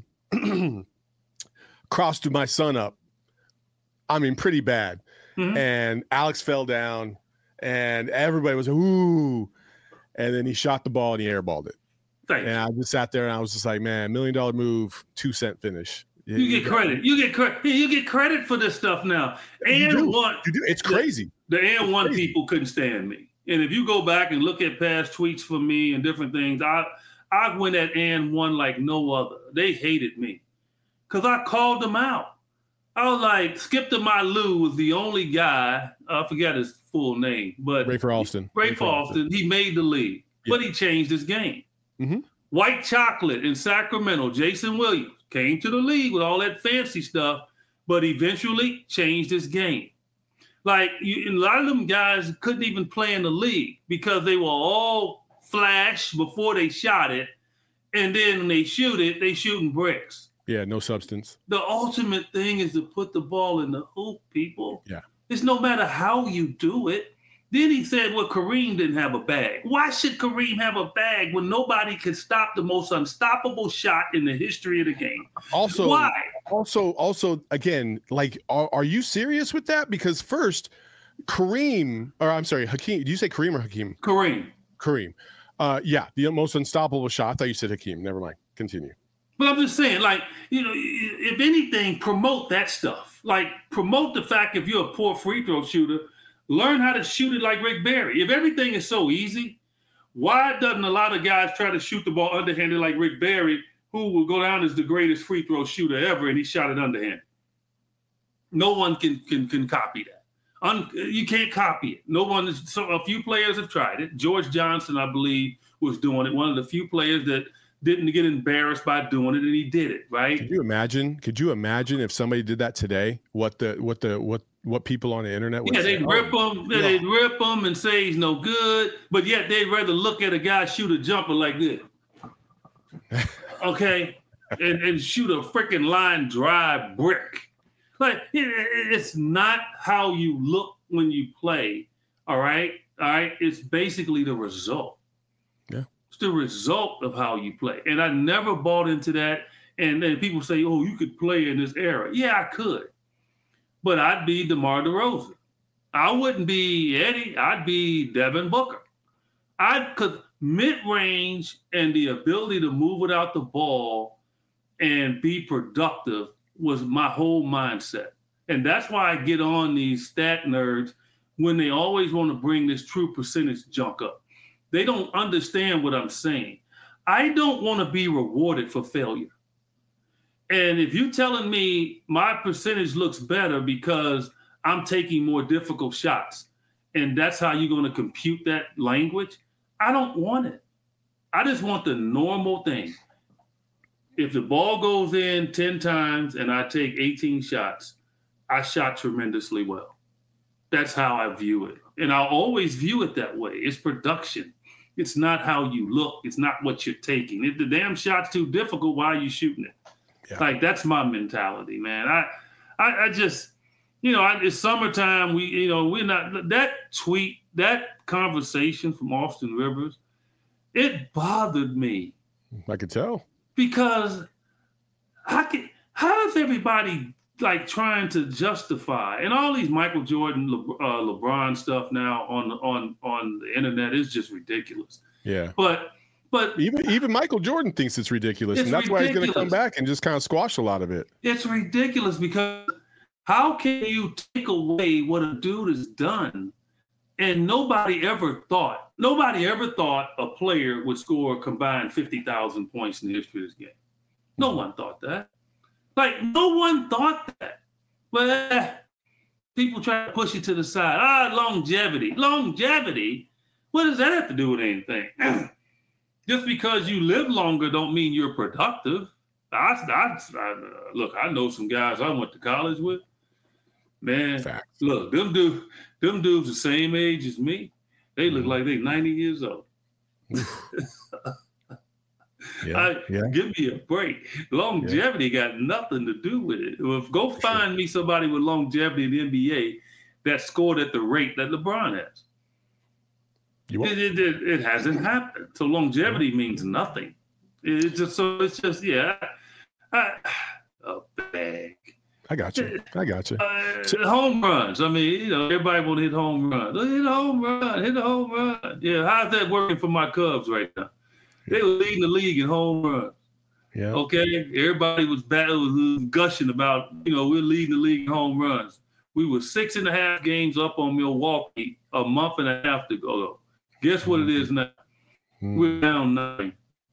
crossed my son up. I mean, pretty bad. Mm-hmm. And Alex fell down, and everybody was, ooh. And then he shot the ball, and he airballed it. Thanks. And I just sat there, and I was just like, man, million dollar move, two cent finish. You, you get credit. You get credit. You get credit for this stuff now. And you do. one, you do. It's crazy. The, the and one crazy. people couldn't stand me. And if you go back and look at past tweets from me and different things, I I went at and one like no other. They hated me because I called them out. I was like, Skip to My Lou was the only guy, I forget his full name, but Rafer Alston. Rafer Alston, he made the league, yeah. But he changed his game. Mm-hmm. White Chocolate in Sacramento, Jason Williams, came to the league with all that fancy stuff, but eventually changed his game. Like, you, a lot of them guys couldn't even play in the league because they were all flash before they shot it, and then when they shoot it, they shooting bricks. Yeah, no substance. The ultimate thing is to put the ball in the hoop, people. Yeah. It's no matter how you do it. Then he said, well, Kareem didn't have a bag. Why should Kareem have a bag when nobody could stop the most unstoppable shot in the history of the game? Also, why? Also, also, again, like, are, are you serious with that? Because first, Kareem, or I'm sorry, Hakeem. Do you say Kareem or Hakeem? Kareem. Kareem. Uh, yeah, the most unstoppable shot. I thought you said Hakeem. Never mind. Continue. But I'm just saying, like, you know, if anything, promote that stuff. Like, promote the fact if you're a poor free throw shooter, learn how to shoot it like Rick Barry. If everything is so easy, why doesn't a lot of guys try to shoot the ball underhanded like Rick Barry, who will go down as the greatest free throw shooter ever, and he shot it underhanded? No one can can can copy that. Un, you can't copy it. No one. Is, so a few players have tried it. George Johnson, I believe, was doing it. One of the few players that didn't get embarrassed by doing it, and he did it, right? Could you imagine? Could you imagine if somebody did that today? What the what the what what people on the internet would yeah, say? they'd rip oh, him, they'd no. rip him and say he's no good, but yet they'd rather look at a guy shoot a jumper like this, okay, and, and shoot a freaking line drive brick. Like it, it's not how you look when you play. All right, all right. It's basically the result. Yeah. It's the result of how you play. And I never bought into that. And then people say, oh, you could play in this era. Yeah, I could. But I'd be DeMar DeRozan. I wouldn't be Eddie. I'd be Devin Booker. I'd cause mid-range and the ability to move without the ball and be productive was my whole mindset. And that's why I get on these stat nerds when they always want to bring this true percentage junk up. They don't understand what I'm saying. I don't want to be rewarded for failure. And if you're telling me my percentage looks better because I'm taking more difficult shots, and that's how you're going to compute that language, I don't want it. I just want the normal thing. If the ball goes in ten times and I take eighteen shots, I shot tremendously well. That's how I view it. And I'll always view it that way. It's production. It's not how you look. It's not what you're taking. If the damn shot's too difficult, why are you shooting it? Yeah. Like, that's my mentality, man. I, I, I just, you know, I, it's summertime. We, you know, we're not, that tweet, that conversation from Austin Rivers, it bothered me. I could tell. Because how can, how does everybody like trying to justify, and all these Michael Jordan, Le, uh, LeBron stuff now on on on the internet is just ridiculous. Yeah, but but even even Michael Jordan thinks it's ridiculous, it's and that's ridiculous. why he's going to come back and just kind of squash a lot of it. It's ridiculous because how can you take away what a dude has done? And nobody ever thought, nobody ever thought a player would score a combined fifty thousand points in the history of this game. No one thought that. Like, no one thought that. But eh, people try to push it to the side. Ah, longevity. Longevity? What does that have to do with anything? Just because you live longer don't mean you're productive. I, I, I, look, I know some guys I went to college with. Man, Facts. Look, them dudes, them dudes the same age as me. They look mm. like they ninety years old. Yeah, I, yeah. Give me a break. Longevity yeah. got nothing to do with it. If, go For find sure. me somebody with longevity in the N B A that scored at the rate that LeBron has. You it, it, it, it hasn't happened. So longevity yeah. means nothing. It's just so it's just yeah. I, a bag. I got you. I got you. Uh, so, home runs. I mean, you know, everybody want to hit home runs. Hit a home run. Hit a home run. Yeah, how's that working for my Cubs right now? They were leading the league in home runs. Yeah. Okay. Everybody was, bad, was gushing about, you know, we're leading the league in home runs. We were six and a half games up on Milwaukee a month and a half ago. Guess what mm-hmm. it is now? Mm-hmm. We're down nine.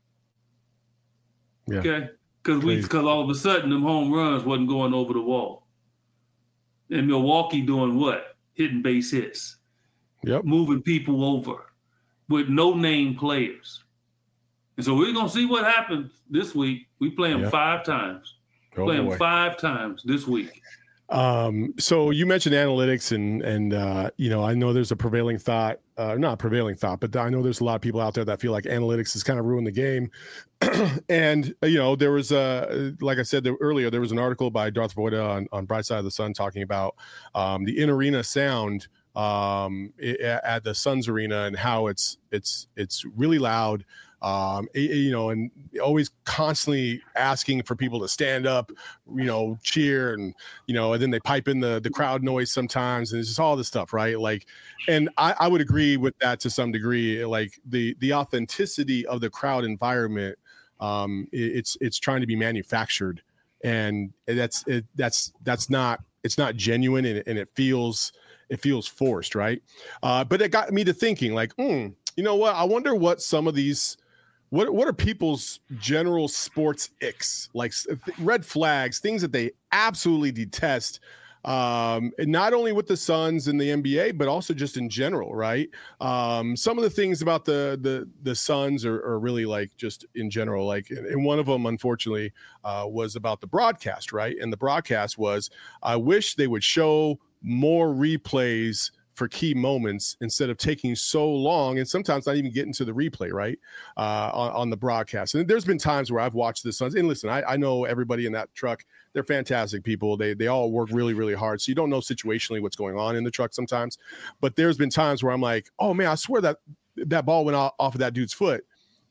Yeah. Okay. Because we, because all of a sudden them home runs wasn't going over the wall. And Milwaukee doing what? Hitting base hits. Yep. Moving people over with no name players. And so we're gonna see what happens this week. We play them yep. five times. Oh, play them boy. five times this week. Um, so you mentioned analytics, and and uh, you know, I know there's a prevailing thought, uh, not prevailing thought, but I know there's a lot of people out there that feel like analytics has kind of ruined the game. And you know, there was a, like I said there, earlier, there was an article by Darth Voida on, on Bright Side of the Sun talking about um, the in-arena sound um, at the Suns arena and how it's it's it's really loud. Um, you know, and always constantly asking for people to stand up, you know, cheer, and, you know, and then they pipe in the, the crowd noise sometimes, and it's just all this stuff, right? Like, and I, I would agree with that to some degree, like the, the authenticity of the crowd environment. Um, it, it's, it's trying to be manufactured, and that's, it, that's, that's not, it's not genuine, and, and it feels, it feels forced. Right. Uh, but it got me to thinking like, hmm, you know what, I wonder what some of these, What what are people's general sports icks, like red flags, things that they absolutely detest, um, and not only with the Suns and the N B A, but also just in general, right? Um, some of the things about the the the Suns are, are really like just in general, like, and one of them, unfortunately, uh, was about the broadcast, right? And the broadcast was, I wish they would show more replays for key moments instead of taking so long, and sometimes not even getting to the replay, right, uh, on, on the broadcast. And there's been times where I've watched the Suns, and listen, I, I know everybody in that truck. They're fantastic people. They they all work really, really hard. So you don't know situationally what's going on in the truck sometimes. But there's been times where I'm like, oh, man, I swear that that ball went off, off of that dude's foot.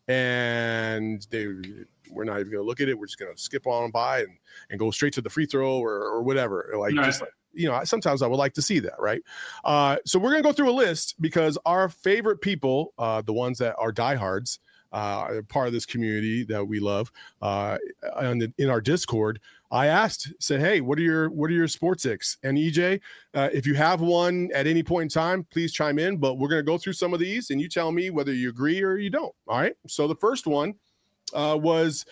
And they we're not even going to look at it. We're just going to skip on by and, and go straight to the free throw or, or whatever. Like, right. just like, you know, sometimes I would like to see that, right? Uh, so we're going to go through a list because our favorite people, uh, the ones that are diehards, uh, part of this community that we love, uh, in, the, in our Discord, I asked, said, hey, what are your what are your sports icks? And E J, uh, if you have one at any point in time, please chime in. But we're going to go through some of these, and you tell me whether you agree or you don't. All right. So the first one uh, was,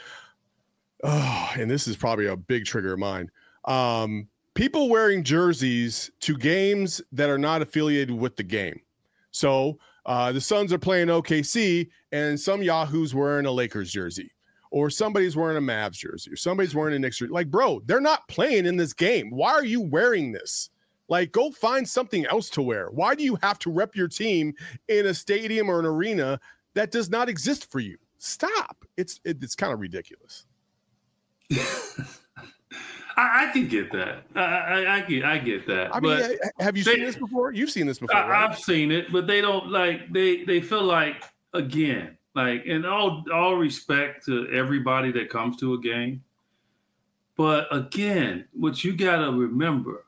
oh, and this is probably a big trigger of mine. Um, People wearing jerseys to games that are not affiliated with the game. So uh, the Suns are playing O K C, and some Yahoo's wearing a Lakers jersey, or somebody's wearing a Mavs jersey, or somebody's wearing a Knicks jersey. Like, bro, they're not playing in this game. Why are you wearing this? Like, go find something else to wear. Why do you have to rep your team in a stadium or an arena that does not exist for you? Stop. It's it, it's kind of ridiculous. I, I can get that. I, I, I get. I get that. I mean, but have you they, seen this before? You've seen this before, I, right? I've seen it, but they don't like. They they feel like again, like in all all respect to everybody that comes to a game, But again, what you got to remember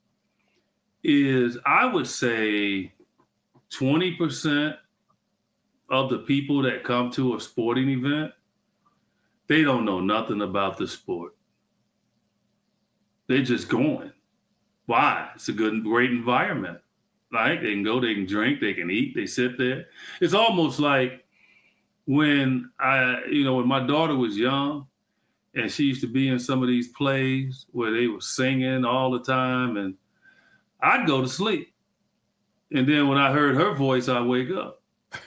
is I would say twenty percent of the people that come to a sporting event, they don't know nothing about the sport. They're just going. Why? It's a good, great environment. Like they can go, they can drink, they can eat, they sit there. It's almost like when I, you know, when my daughter was young and she used to be in some of these plays where they were singing all the time and I'd go to sleep. And then when I heard her voice, I'd wake up.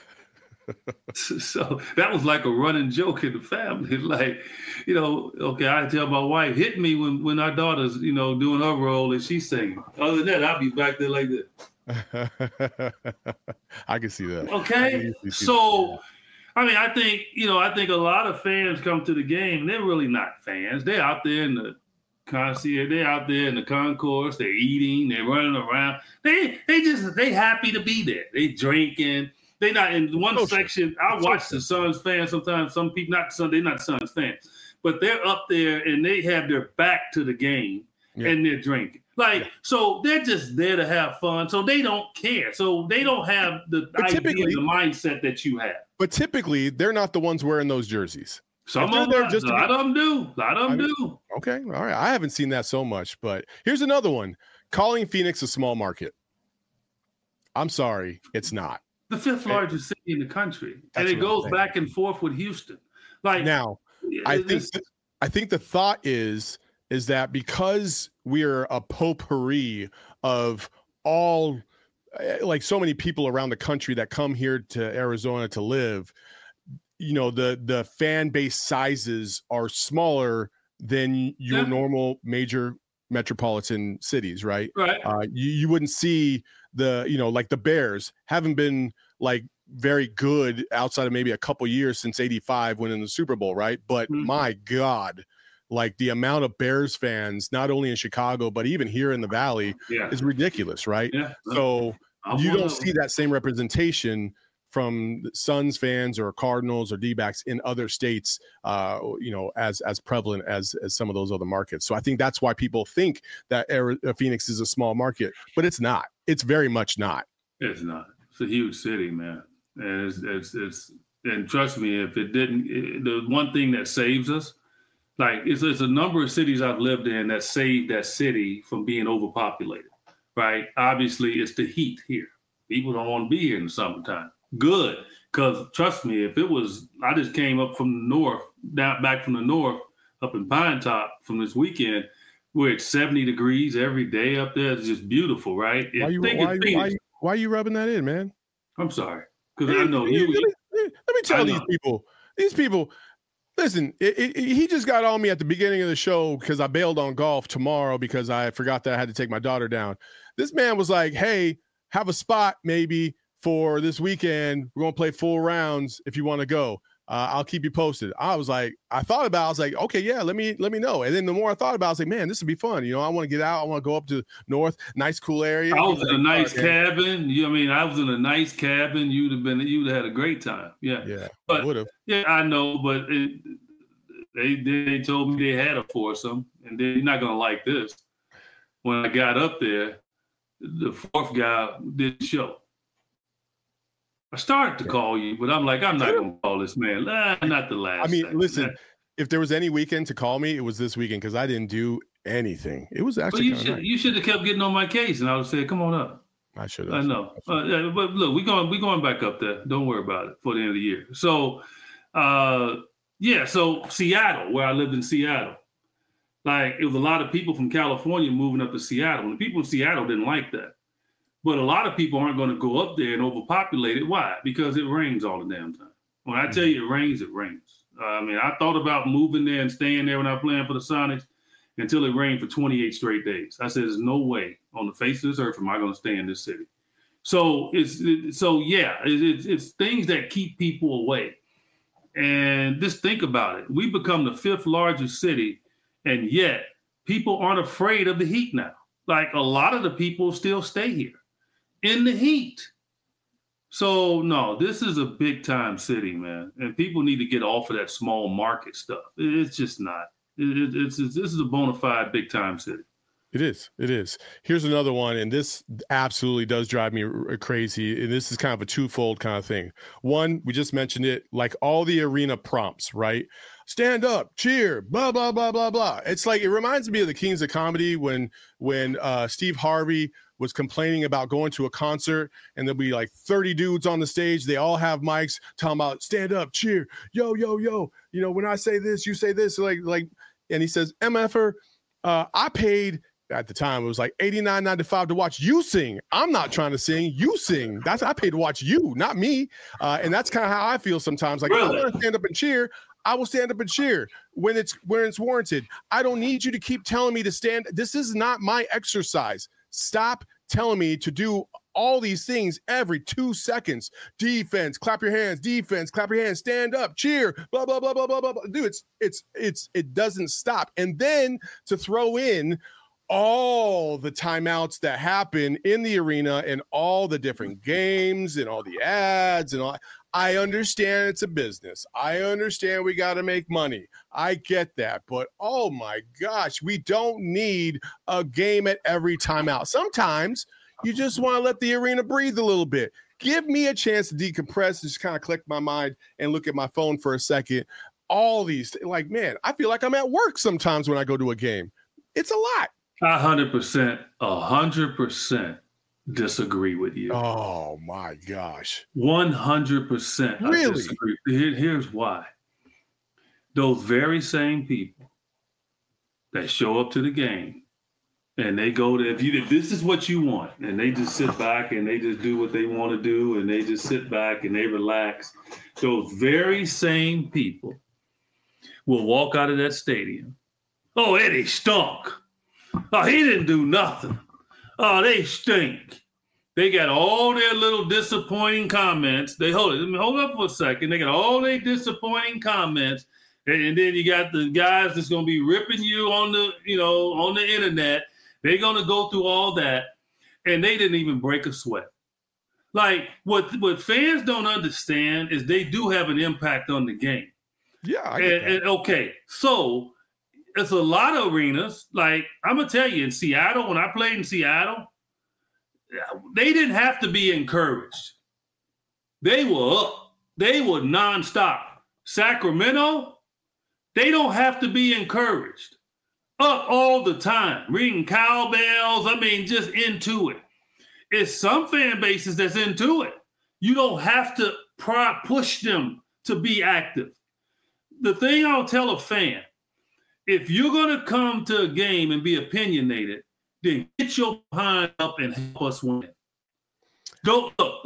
So that was like a running joke in the family. Like, you know, okay, I tell my wife, hit me when, when our daughter's, you know, doing her role and she's singing. Other than that, I'll be back there like this. I can see that. Okay. See so, that. I mean, I think, you know, I think a lot of fans come to the game. They're really not fans. They're out there in the concierge. They're out there in the concourse. They're eating. They're running around. They they just, they happy to be there. They drinking. They not in one Social. section. I watch Social. the Suns fans sometimes. Some people, not Sun, they're not Suns fans, but they're up there and they have their back to the game yeah. and they're drinking. Like, yeah. so they're just there to have fun. So they don't care. So they don't have the but idea, the mindset that you have. But typically, they're not the ones wearing those jerseys. Some of them, just a lot of them do. A lot of them I mean, do. Okay, all right. I haven't seen that so much, but here's another one. Calling Phoenix a small market. I'm sorry, it's not. The fifth largest city in the country, and it goes back and forth with Houston. Like now, I think th- I think the thought is is that because we're a potpourri of all, like so many people around the country that come here to Arizona to live, you know, the the fan base sizes are smaller than your yeah. normal major metropolitan cities, right? Right. Uh, you, you wouldn't see the, you know, like the Bears haven't been like very good outside of maybe a couple years since eighty-five winning the Super Bowl, right? But mm-hmm. my God, like the amount of Bears fans, not only in Chicago, but even here in the Valley yeah. is ridiculous, right? Yeah. So I'll you don't see that same representation from Suns fans or Cardinals or D-backs in other states, uh, you know, as as prevalent as as some of those other markets. So I think that's why people think that Arizona, Phoenix is a small market, but it's not. It's very much not. It's not. It's a huge city, man, and it's it's, it's and trust me, if it didn't, it, the one thing that saves us, like it's, it's a number of cities I've lived in that saved that city from being overpopulated, right? Obviously, it's the heat here. People don't want to be here in the summertime. Good, because trust me, if it was, I just came up from the north, down back from the north, up in Pine Top from this weekend. We're at seventy degrees every day up there. It's just beautiful, right? Why you, why, why, why, why are you rubbing that in, man? I'm sorry, because I know you. Let me, let me tell these people. These people. Listen, it, it, he just got on me at the beginning of the show because I bailed on golf tomorrow because I forgot that I had to take my daughter down. This man was like, "Hey, have a spot maybe for this weekend. We're gonna play full rounds if you want to go. Uh, I'll keep you posted." I was like, I thought about it. I was like, okay, yeah, let me let me know. And then the more I thought about it, I was like, man, this would be fun. You know, I want to get out. I want to go up to north, nice, cool area. I was in like, a nice okay. cabin. You know, I mean, I was in a nice cabin. You'd have been, you'd have had a great time. Yeah, yeah, but would have. Yeah, I know, but it, they they told me they had a foursome, and they're not gonna like this. When I got up there, the fourth guy did the show. I started to call you, but I'm like, I'm not going to call this man. Nah, not the last. I mean, second. listen, if there was any weekend to call me, it was this weekend because I didn't do anything. It was actually. Well, you should nice. you should have kept getting on my case, and I would have said, "Come on up." I should have. I know, uh, yeah, but look, we going we going back up there. Don't worry about it for the end of the year. So, uh, yeah, so Seattle, where I lived in Seattle, like it was a lot of people from California moving up to Seattle, and the people in Seattle didn't like that. But a lot of people aren't going to go up there and overpopulate it. Why? Because it rains all the damn time. When I tell you it rains, it rains. Uh, I mean, I thought about moving there and staying there when I was playing for the Sonics until it rained for twenty-eight straight days. I said, there's no way on the face of this earth am I going to stay in this city. So it's it, so yeah, it, it's it's things that keep people away. And just think about it. We become the fifth largest city, and yet people aren't afraid of the heat now. Like a lot of the people still stay here in the heat. So no, this is a big time city, man. And people need to get off of that small market stuff. It's just not. It, it, it's, it's this is a bona fide big time city. It is. It is. Here's another one, and this absolutely does drive me r- crazy. And this is kind of a twofold kind of thing. One, we just mentioned it, like all the arena prompts, right? Stand up, cheer, blah blah blah blah blah. It's like it reminds me of the Kings of Comedy when when uh, Steve Harvey was complaining about going to a concert and there'll be like thirty dudes on the stage. They all have mics talking about stand up, cheer, yo yo yo. You know, when I say this, you say this, like like. And he says, M F R, uh, I paid. At the time, it was like eighty-nine ninety-five to watch you sing. I'm not trying to sing. You sing. That's I paid to watch you, not me. Uh, and that's kind of how I feel sometimes. Like, really? I want to stand up and cheer. I will stand up and cheer when it's when it's warranted. I don't need you to keep telling me to stand. This is not my exercise. Stop telling me to do all these things every two seconds. Defense, clap your hands. Defense, clap your hands. Stand up, cheer. Blah blah blah blah blah blah. Dude, it's it's it's it doesn't stop. And then to throw in all the timeouts that happen in the arena and all the different games and all the ads and all. I understand it's a business. I understand we got to make money. I get that. But oh my gosh, we don't need a game at every timeout. Sometimes you just want to let the arena breathe a little bit. Give me a chance to decompress, just kind of collect my mind and look at my phone for a second. All these, like, man, I feel like I'm at work sometimes when I go to a game. It's a lot. A hundred percent, a hundred percent disagree with you. Oh my gosh. One hundred percent. Really? Disagree. Here, here's why. Those very same people that show up to the game and they go to, if you, if this is what you want, and they just sit back and they just do what they want to do and they just sit back and they relax, those very same people will walk out of that stadium. Oh, Eddie stunk. Oh, he didn't do nothing. Oh, they stink. They got all their little disappointing comments. They hold it. Hold up for a second. They got all their disappointing comments, and, and then you got the guys that's gonna be ripping you on the, you know, on the internet. They're gonna go through all that, and they didn't even break a sweat. Like what what fans don't understand is they do have an impact on the game. Yeah. I And, and okay, so. It's a lot of arenas. Like, I'm going to tell you, in Seattle, when I played in Seattle, they didn't have to be encouraged. They were up. They were nonstop. Sacramento, they don't have to be encouraged. Up all the time, ringing cowbells. I mean, just into it. It's some fan bases that's into it. You don't have to pry, push them to be active. The thing I'll tell a fan, if you're going to come to a game and be opinionated, then get your behind up and help us win. Don't look.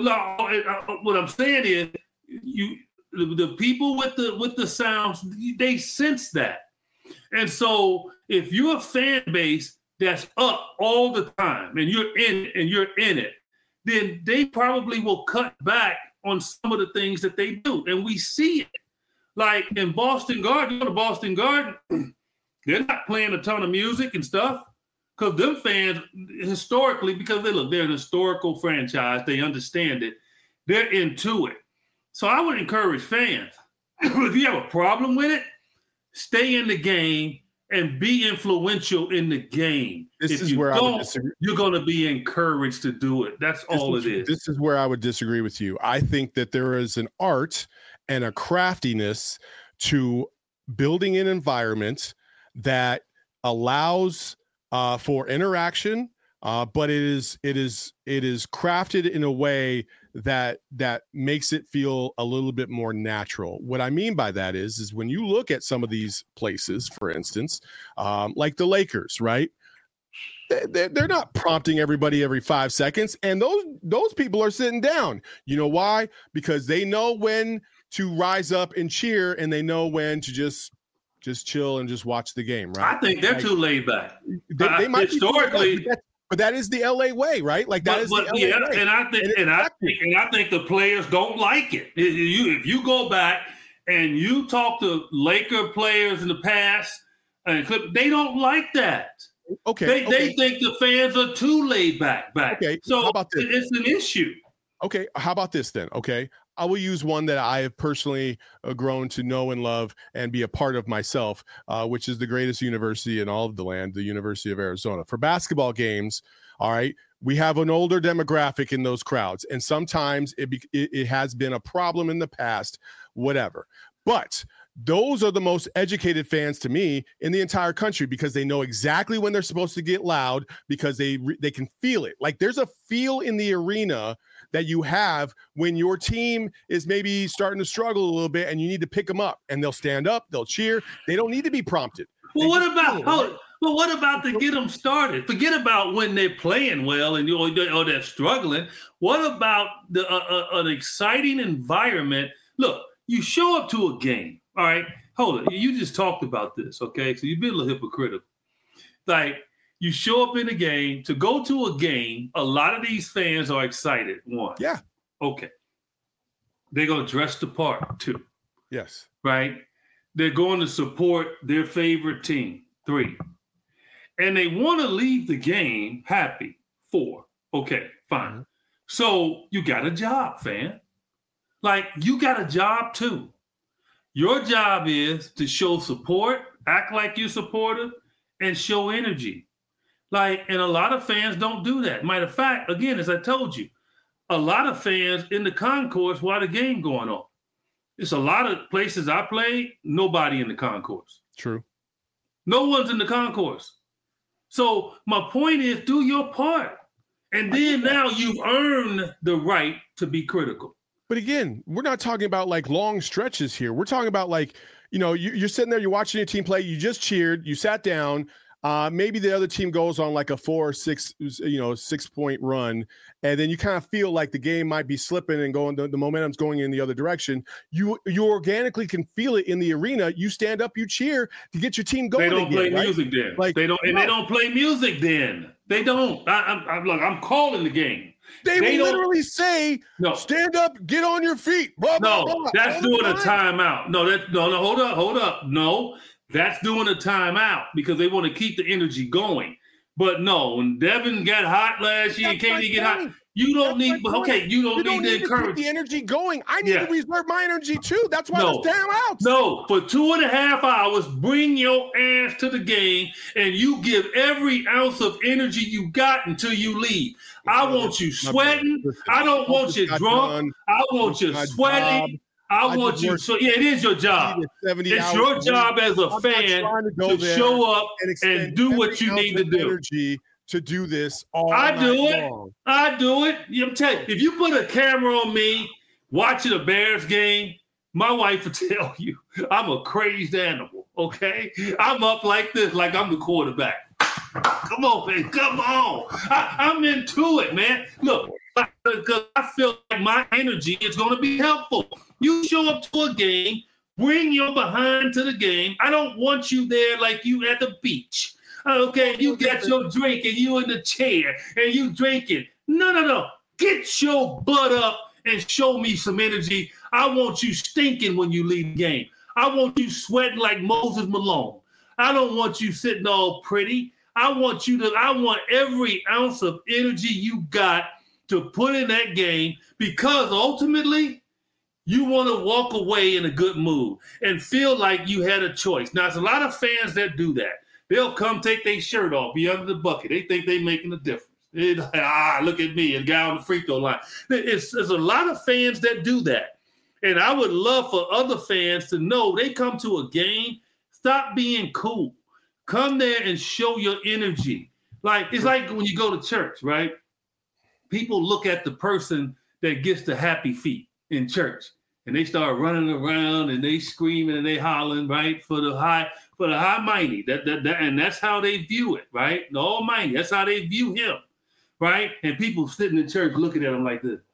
What I'm saying is, you the people with the with the sounds, they sense that, and so if you're a fan base that's up all the time and you're in and you're in it, then they probably will cut back on some of the things that they do, and we see it. Like in Boston Garden, go to Boston Garden, they're not playing a ton of music and stuff because them fans, historically, because they look, they're an historical franchise, they understand it, they're into it. So I would encourage fans, if you have a problem with it, stay in the game and be influential in the game. This if is you where don't, I would disagree. You're going to be encouraged to do it. That's This all is, it is. This is where I would disagree with you. I think that there is an art and a craftiness to building an environment that allows uh, for interaction, uh, but it is it is it is crafted in a way that that makes it feel a little bit more natural. What I mean by that is is when you look at some of these places, for instance, um, like the Lakers, right? They're not prompting everybody every five seconds, and those those people are sitting down. You know why? Because they know when to rise up and cheer, and they know when to just just chill and just watch the game. Right? I think they're like, too laid back. They, they uh, might historically, be, but, but that is the L A way, right? Like that but, is but, the L A yeah, way. and I think and, and I think and I think the players don't like it. If you if you go back and you talk to Laker players in the past, and they don't like that. Okay, they okay. they think the fans are too laid back. Back. Okay, so how about this? It's an issue. Okay, how about this then? Okay, I will use one that I have personally uh, grown to know and love and be a part of myself, uh, which is the greatest university in all of the land, the University of Arizona. For basketball games, all right, we have an older demographic in those crowds, and sometimes it, be, it, it has been a problem in the past, whatever. But those are the most educated fans to me in the entire country because they know exactly when they're supposed to get loud because they they can feel it. Like there's a feel in the arena that you have when your team is maybe starting to struggle a little bit and you need to pick them up, and they'll stand up, they'll cheer. They don't need to be prompted. Well, They what just about feel it, oh, right? well, what about to get them started? Forget about when they're playing well and you or they're, or they're struggling. What about the uh, uh, an exciting environment? Look, you show up to a game. All right, hold it. You just talked about this, okay? So you've been a little hypocritical. Like you show up in a game to go to a game. A lot of these fans are excited. One, Yeah. okay. They're gonna dress the part. Two, Yes. right? They're going to support their favorite team. Three. And they want to leave the game happy. Four. Okay, fine. Mm-hmm. So you got a job, fan. Like you got a job too. Your job is to show support, act like you supportive, and show energy. Like, and a lot of fans don't do that. Matter of fact, again, as I told you, a lot of fans in the concourse while the game going on. It's a lot of places I play, nobody in the concourse. True. No one's in the concourse. So my point is, do your part. And then now you've earned the right to be critical. But again, we're not talking about like long stretches here. We're talking about like, you know, you, you're sitting there, you're watching your team play, you just cheered, you sat down. Uh, maybe the other team goes on like a four or six, you know, six point run. And then you kind of feel like the game might be slipping and going, the, the momentum's going in the other direction. You you organically can feel it in the arena. You stand up, you cheer to get your team going. They don't again, play right? music then. Like, they don't, and no. they don't play music then. They don't. I, I'm, I'm look. I'm calling the game. They, They will don't- literally say, No, stand up, get on your feet. Blah, blah, no, blah, that's all the doing a time. timeout. No, that no, no. Hold up, hold up. No, that's doing a timeout because they want to keep the energy going. But no, when Devin got hot last year, That's can't my he get hot? point. You don't That's need. my point. Okay, you don't You need don't to need to keep encourage. the energy going. I need Yeah. to reserve my energy too. That's why No. there's timeouts. No, for two and a half hours, bring your ass to the game and you give every ounce of energy you got until you leave. I want you My sweating. brother, listen, I don't want just you got drunk. done. I want you My job. sweating. I I want just you. worked So yeah, it is your job. sixty to seventy It's hours your a week. job as a I'm not fan trying to go to there show up and, and expend do what every you ounce need to of do. energy to do this all I night do it. long. I do it. I'm telling you, if you put a camera on me watching a Bears game, my wife will tell you I'm a crazed animal. Okay, I'm up like this, like I'm the quarterback. Come on, man. Come on. I, I'm into it, man. Look, because I feel like my energy is going to be helpful. You show up to a game, bring your behind to the game. I don't want you there like you at the beach. Okay, you got your drink and you in the chair and you drinking. No, no, no. Get your butt up and show me some energy. I want you stinking when you leave the game. I want you sweating like Moses Malone. I don't want you sitting all pretty. I want you to, I want every ounce of energy you got to put in that game because ultimately you want to walk away in a good mood and feel like you had a choice. Now, there's a lot of fans that do that. They'll come take their shirt off, be under the bucket. They think they're making a difference. They, ah, look at me, a guy on the free throw line. It's, there's a lot of fans that do that. And I would love for other fans to know they come to a game, stop being cool. Come there and show your energy. Like, it's like when you go to church, right? People look at the person that gets the happy feet in church. And they start running around and they screaming and they hollering, right? For the high, for the high mighty. That, that, that, and that's how they view it, right? The almighty. That's how they view him, right? And people sitting in church looking at him like this.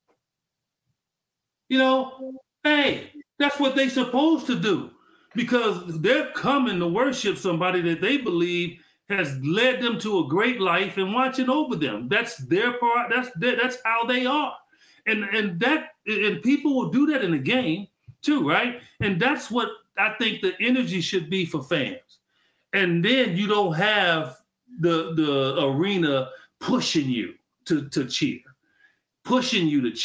You know, hey, that's what they supposed to do because they're coming to worship somebody that they believe has led them to a great life and watching over them. That's their part. That's their, that's how they are. And and that and people will do that in the game too, right? And that's what I think the energy should be for fans. And then you don't have the the arena pushing you to, to cheer, pushing you to cheer.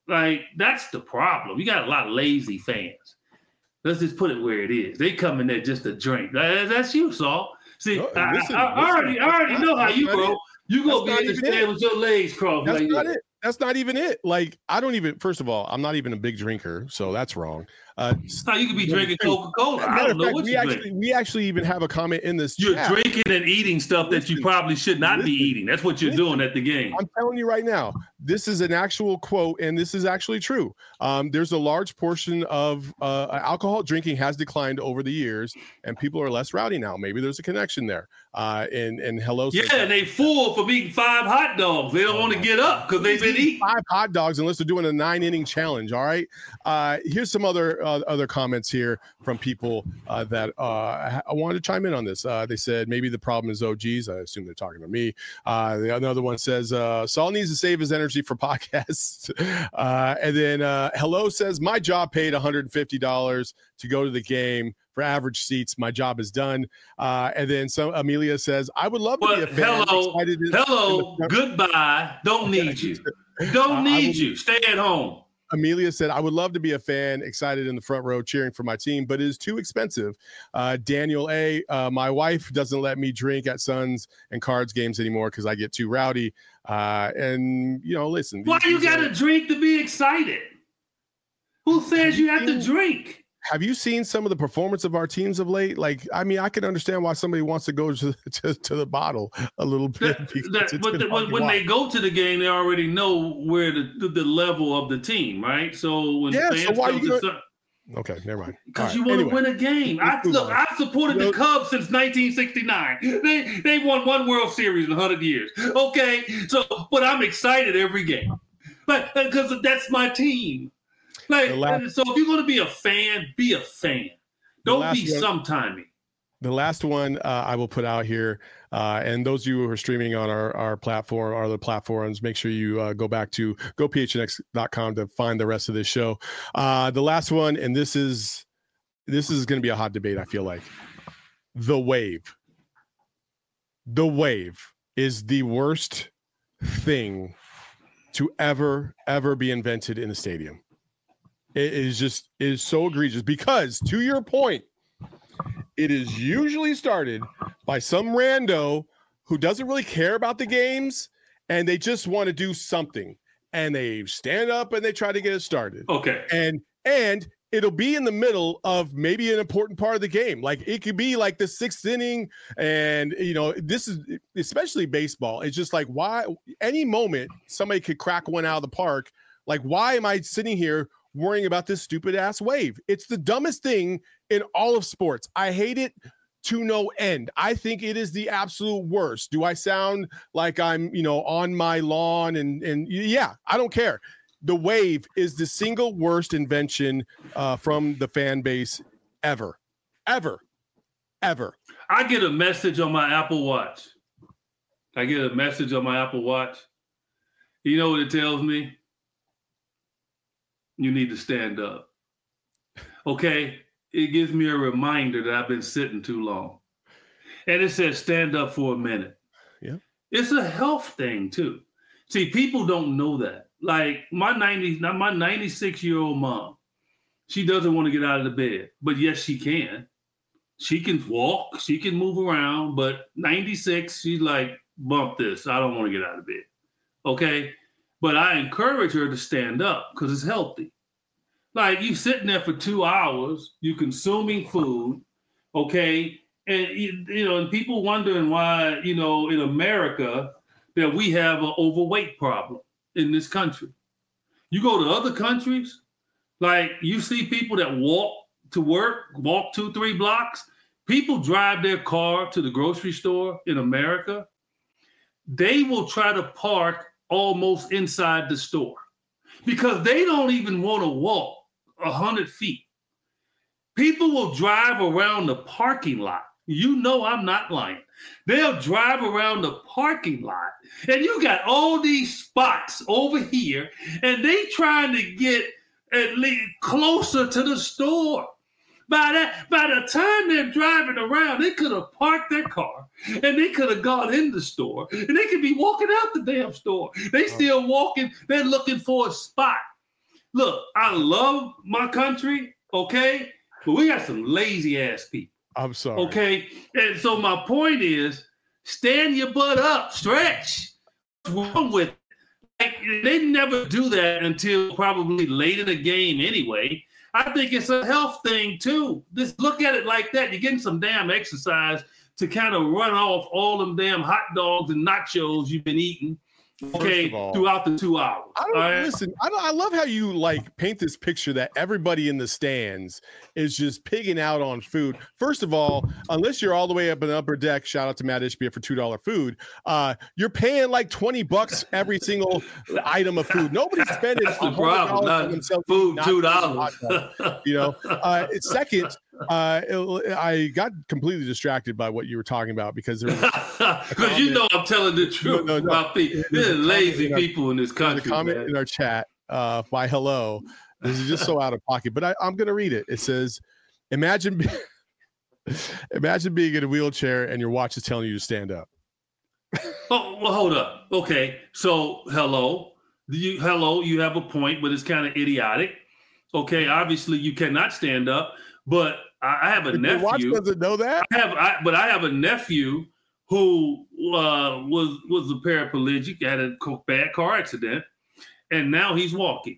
Like, that's the problem. You got a lot of lazy fans. Let's just put it where it is. They come in there just to drink. That's you, Saul. See, no, I, listen, I, I, listen, already, I already know how you go. You go be in the stand with your legs crossed. That's like not it. That's not even it. Like, I don't even, first of all, I'm not even a big drinker, so that's wrong. Uh, no, you could be drinking Coca-Cola. I don't know fact, what we you actually, drink. We actually even have a comment in this You're chat. drinking and eating stuff listen, that you probably should not listen, be eating. That's what you're listen, doing at the game. I'm telling you right now, this is an actual quote, and this is actually true. Um, there's a large portion of uh, alcohol drinking has declined over the years, and people are less rowdy now. Maybe there's a connection there. Uh, and, and hello. Yeah, and they full from eating five hot dogs. They don't oh, want to get up because they've been eating five hot dogs unless they're doing a nine inning challenge. All right. Uh, here's some other uh, other comments here from people uh, that uh, I wanted to chime in on this. Uh, they said maybe the problem is O Gs. I assume they're talking to me. Uh, the another one says uh, Saul needs to save his energy for podcasts. uh, and then uh, hello says my job paid one hundred fifty dollars to go to the game. For average seats, my job is done. Uh, and then some Amelia says, I would love to well, be a fan. Hello, in, hello, in goodbye. Don't need you. Don't need uh, you. Stay at home. Amelia said, I would love to be a fan, excited in the front row, cheering for my team, but it is too expensive. Uh, Daniel A., uh, my wife doesn't let me drink at Suns and Cards games anymore because I get too rowdy. Uh, and, you know, listen. Why you got to are... drink to be excited? Who says you have to drink? Have you seen some of the performance of our teams of late? Like, I mean, I can understand why somebody wants to go to to, to the bottle a little bit. That, that, but the, when, when they go to the game, they already know where the, the, the level of the team, right? So when yeah, fans so why come you to gonna... Okay, never mind. Because right, you want anyway. to win a game. I, look, I've supported you know, the Cubs since nineteen sixty-nine. They they won one World Series in one hundred years. Okay, so but I'm excited every game, but because that's my team. Like, last, so if you're going to be a fan, be a fan. Don't be sometimey. The last one uh, I will put out here, uh, and those of you who are streaming on our, our platform, our other platforms, make sure you uh, go back to go p h n x dot com to find the rest of this show. Uh, the last one, and this is this is going to be a hot debate, I feel like. The wave. The wave is the worst thing to ever, ever be invented in the stadium. It is just it is so egregious because, to your point, it is usually started by some rando who doesn't really care about the games and they just want to do something and they stand up and they try to get it started. Okay. And and it'll be in the middle of maybe an important part of the game. Like it could be like the sixth inning. And, you know, this is especially baseball. It's just like why any moment somebody could crack one out of the park. Like, why am I sitting here worrying about this stupid ass wave? It's the dumbest thing in all of sports. I hate it to no end. I think it is the absolute worst. Do I sound like I'm, you know, on my lawn and, and yeah, I don't care. The wave is the single worst invention uh, from the fan base ever, ever, ever. I get a message on my Apple Watch. I get a message on my Apple Watch. You know what it tells me? You need to stand up. Okay? It gives me a reminder that I've been sitting too long. And it says stand up for a minute. Yeah. It's a health thing too. See, people don't know that. Like my ninety, my ninety-six-year-old mom, she doesn't want to get out of the bed, but yes, she can. She can walk, she can move around, but ninety-six, she's like, bump this. I don't want to get out of bed. Okay? But I encourage her to stand up because it's healthy. Like you sitting there for two hours, you consuming food, okay? And, you, you know, and people wondering why, you know, in America that we have an overweight problem in this country. You go to other countries, like you see people that walk to work, walk two, three blocks. People drive their car to the grocery store in America. They will try to park almost inside the store because they don't even want to walk a hundred feet. People will drive around the parking lot. You know I'm not lying. They'll drive around the parking lot and you got all these spots over here and they trying to get at least closer to the store. By that, by the time they're driving around, they could have parked their car and they could have gone in the store and they could be walking out the damn store. They still walking. They're looking for a spot. look, I love my country, okay, but we got some lazy ass people. I'm sorry. Okay, and so my point is, stand your butt up, stretch. What's wrong with it? Like, they never do that until probably late in the game anyway. I think it's a health thing too. Just look at it like that. You're getting some damn exercise to kind of run off all them damn hot dogs and nachos you've been eating. Okay, all, throughout the two hours. I don't right? listen. I don't, I love how you like paint this picture that everybody in the stands is just pigging out on food. First of all, unless you're all the way up in the upper deck, shout out to Matt Ishbia for two dollar food. Uh, you're paying like twenty bucks every single item of food. Nobody's spending That's the problem. Not themselves food two dollars. You know. Uh, second, uh, it, I got completely distracted by what you were talking about because there was because you know I'm telling the truth no, no, no. about people. There's lazy in people our, in this country. The comment man. in our chat uh, by hello. This is just so out of pocket, but I, I'm going to read it. It says, "Imagine, be- imagine being in a wheelchair and your watch is telling you to stand up." Oh, well, hold up. Okay, so hello, you hello, you have a point, but it's kind of idiotic. Okay, obviously you cannot stand up, but I, I have a if nephew. Your watch doesn't know that. I have, I, but I have a nephew who uh, was was a paraplegic, had a bad car accident, and now he's walking.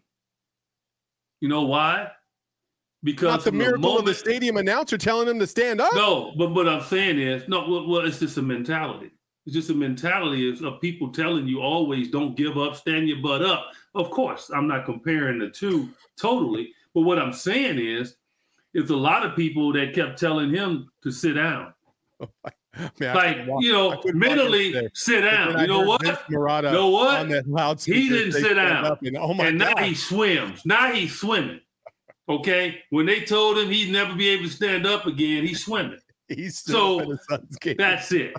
You know why? Because not the miracle the moment, of the stadium announcer telling him to stand up. No, but what I'm saying is, no, well, well it's just a mentality. It's just a mentality of, of people telling you always don't give up, stand your butt up. Of course, I'm not comparing the two totally, but what I'm saying is, it's a lot of people that kept telling him to sit down. Man, like, you know, mentally sit down. You know what? You know what? He didn't sit down. And, oh my and now God. He swims. Now he's swimming. Okay? When they told him he'd never be able to stand up again, he's swimming. He's still so that's it.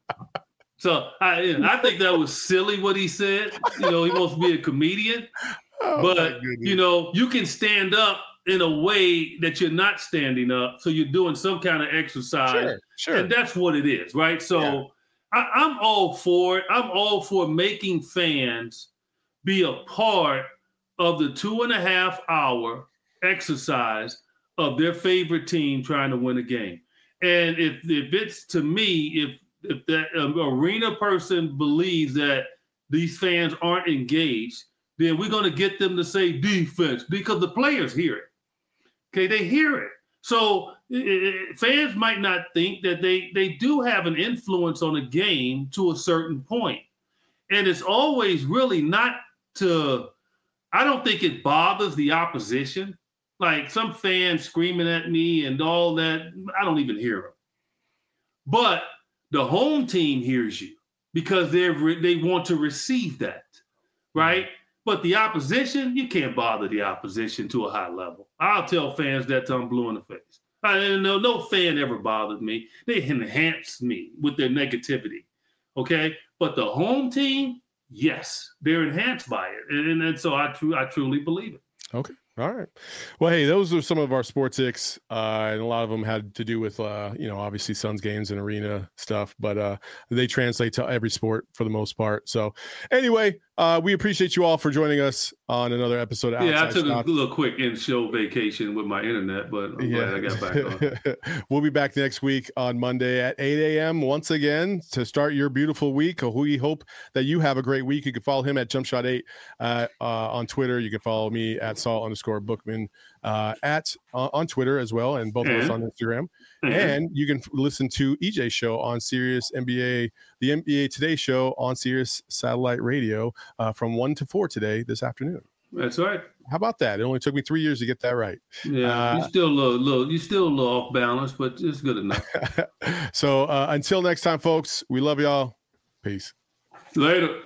So I, I think that was silly what he said. You know, he wants to be a comedian. Oh, but, you know, you can stand up in a way that you're not standing up. So you're doing some kind of exercise. Sure, sure. And that's what it is, right? So yeah. I, I'm all for it. I'm all for making fans be a part of the two and a half hour exercise of their favorite team trying to win a game. And if if it's to me, if if that um, arena person believes that these fans aren't engaged, then we're going to get them to say defense because the players hear it. Okay, they hear it. So it, fans might not think that they, they do have an influence on a game to a certain point. And it's always really not to, I don't think it bothers the opposition. Like some fans screaming at me and all that, I don't even hear them. But the home team hears you because they they want to receive that, right? But the opposition, you can't bother the opposition to a high level. I'll tell fans that till I'm blue in the face. I no no fan ever bothered me. They enhanced me with their negativity, okay? But the home team, yes, they're enhanced by it, and, and so I tr- I truly believe it. Okay. All right. Well, hey, those are some of our sports icks, uh, and a lot of them had to do with, uh, you know, obviously Suns games and arena stuff, but uh, they translate to every sport for the most part. So anyway, uh, we appreciate you all for joining us on another episode of Yeah, Outside I took Shot. a little quick in-show vacation with my internet, but I'm yeah. glad I got back on. We'll be back next week on Monday at eight a.m. once again to start your beautiful week. We hope that you have a great week. You can follow him at Jump Shot eight uh, uh, on Twitter. You can follow me at Saul underscore Bookman uh, at uh, on Twitter as well, and both mm-hmm. of us on Instagram. Mm-hmm. And you can f- listen to E J's show on Sirius N B A, the N B A Today show on Sirius Satellite Radio uh, from one to four today this afternoon. That's right. How about that? It only took me three years to get that right. Yeah, uh, you're still a little, little, you're still a little off balance, but it's good enough. So uh, until next time, folks, we love y'all. Peace. Later.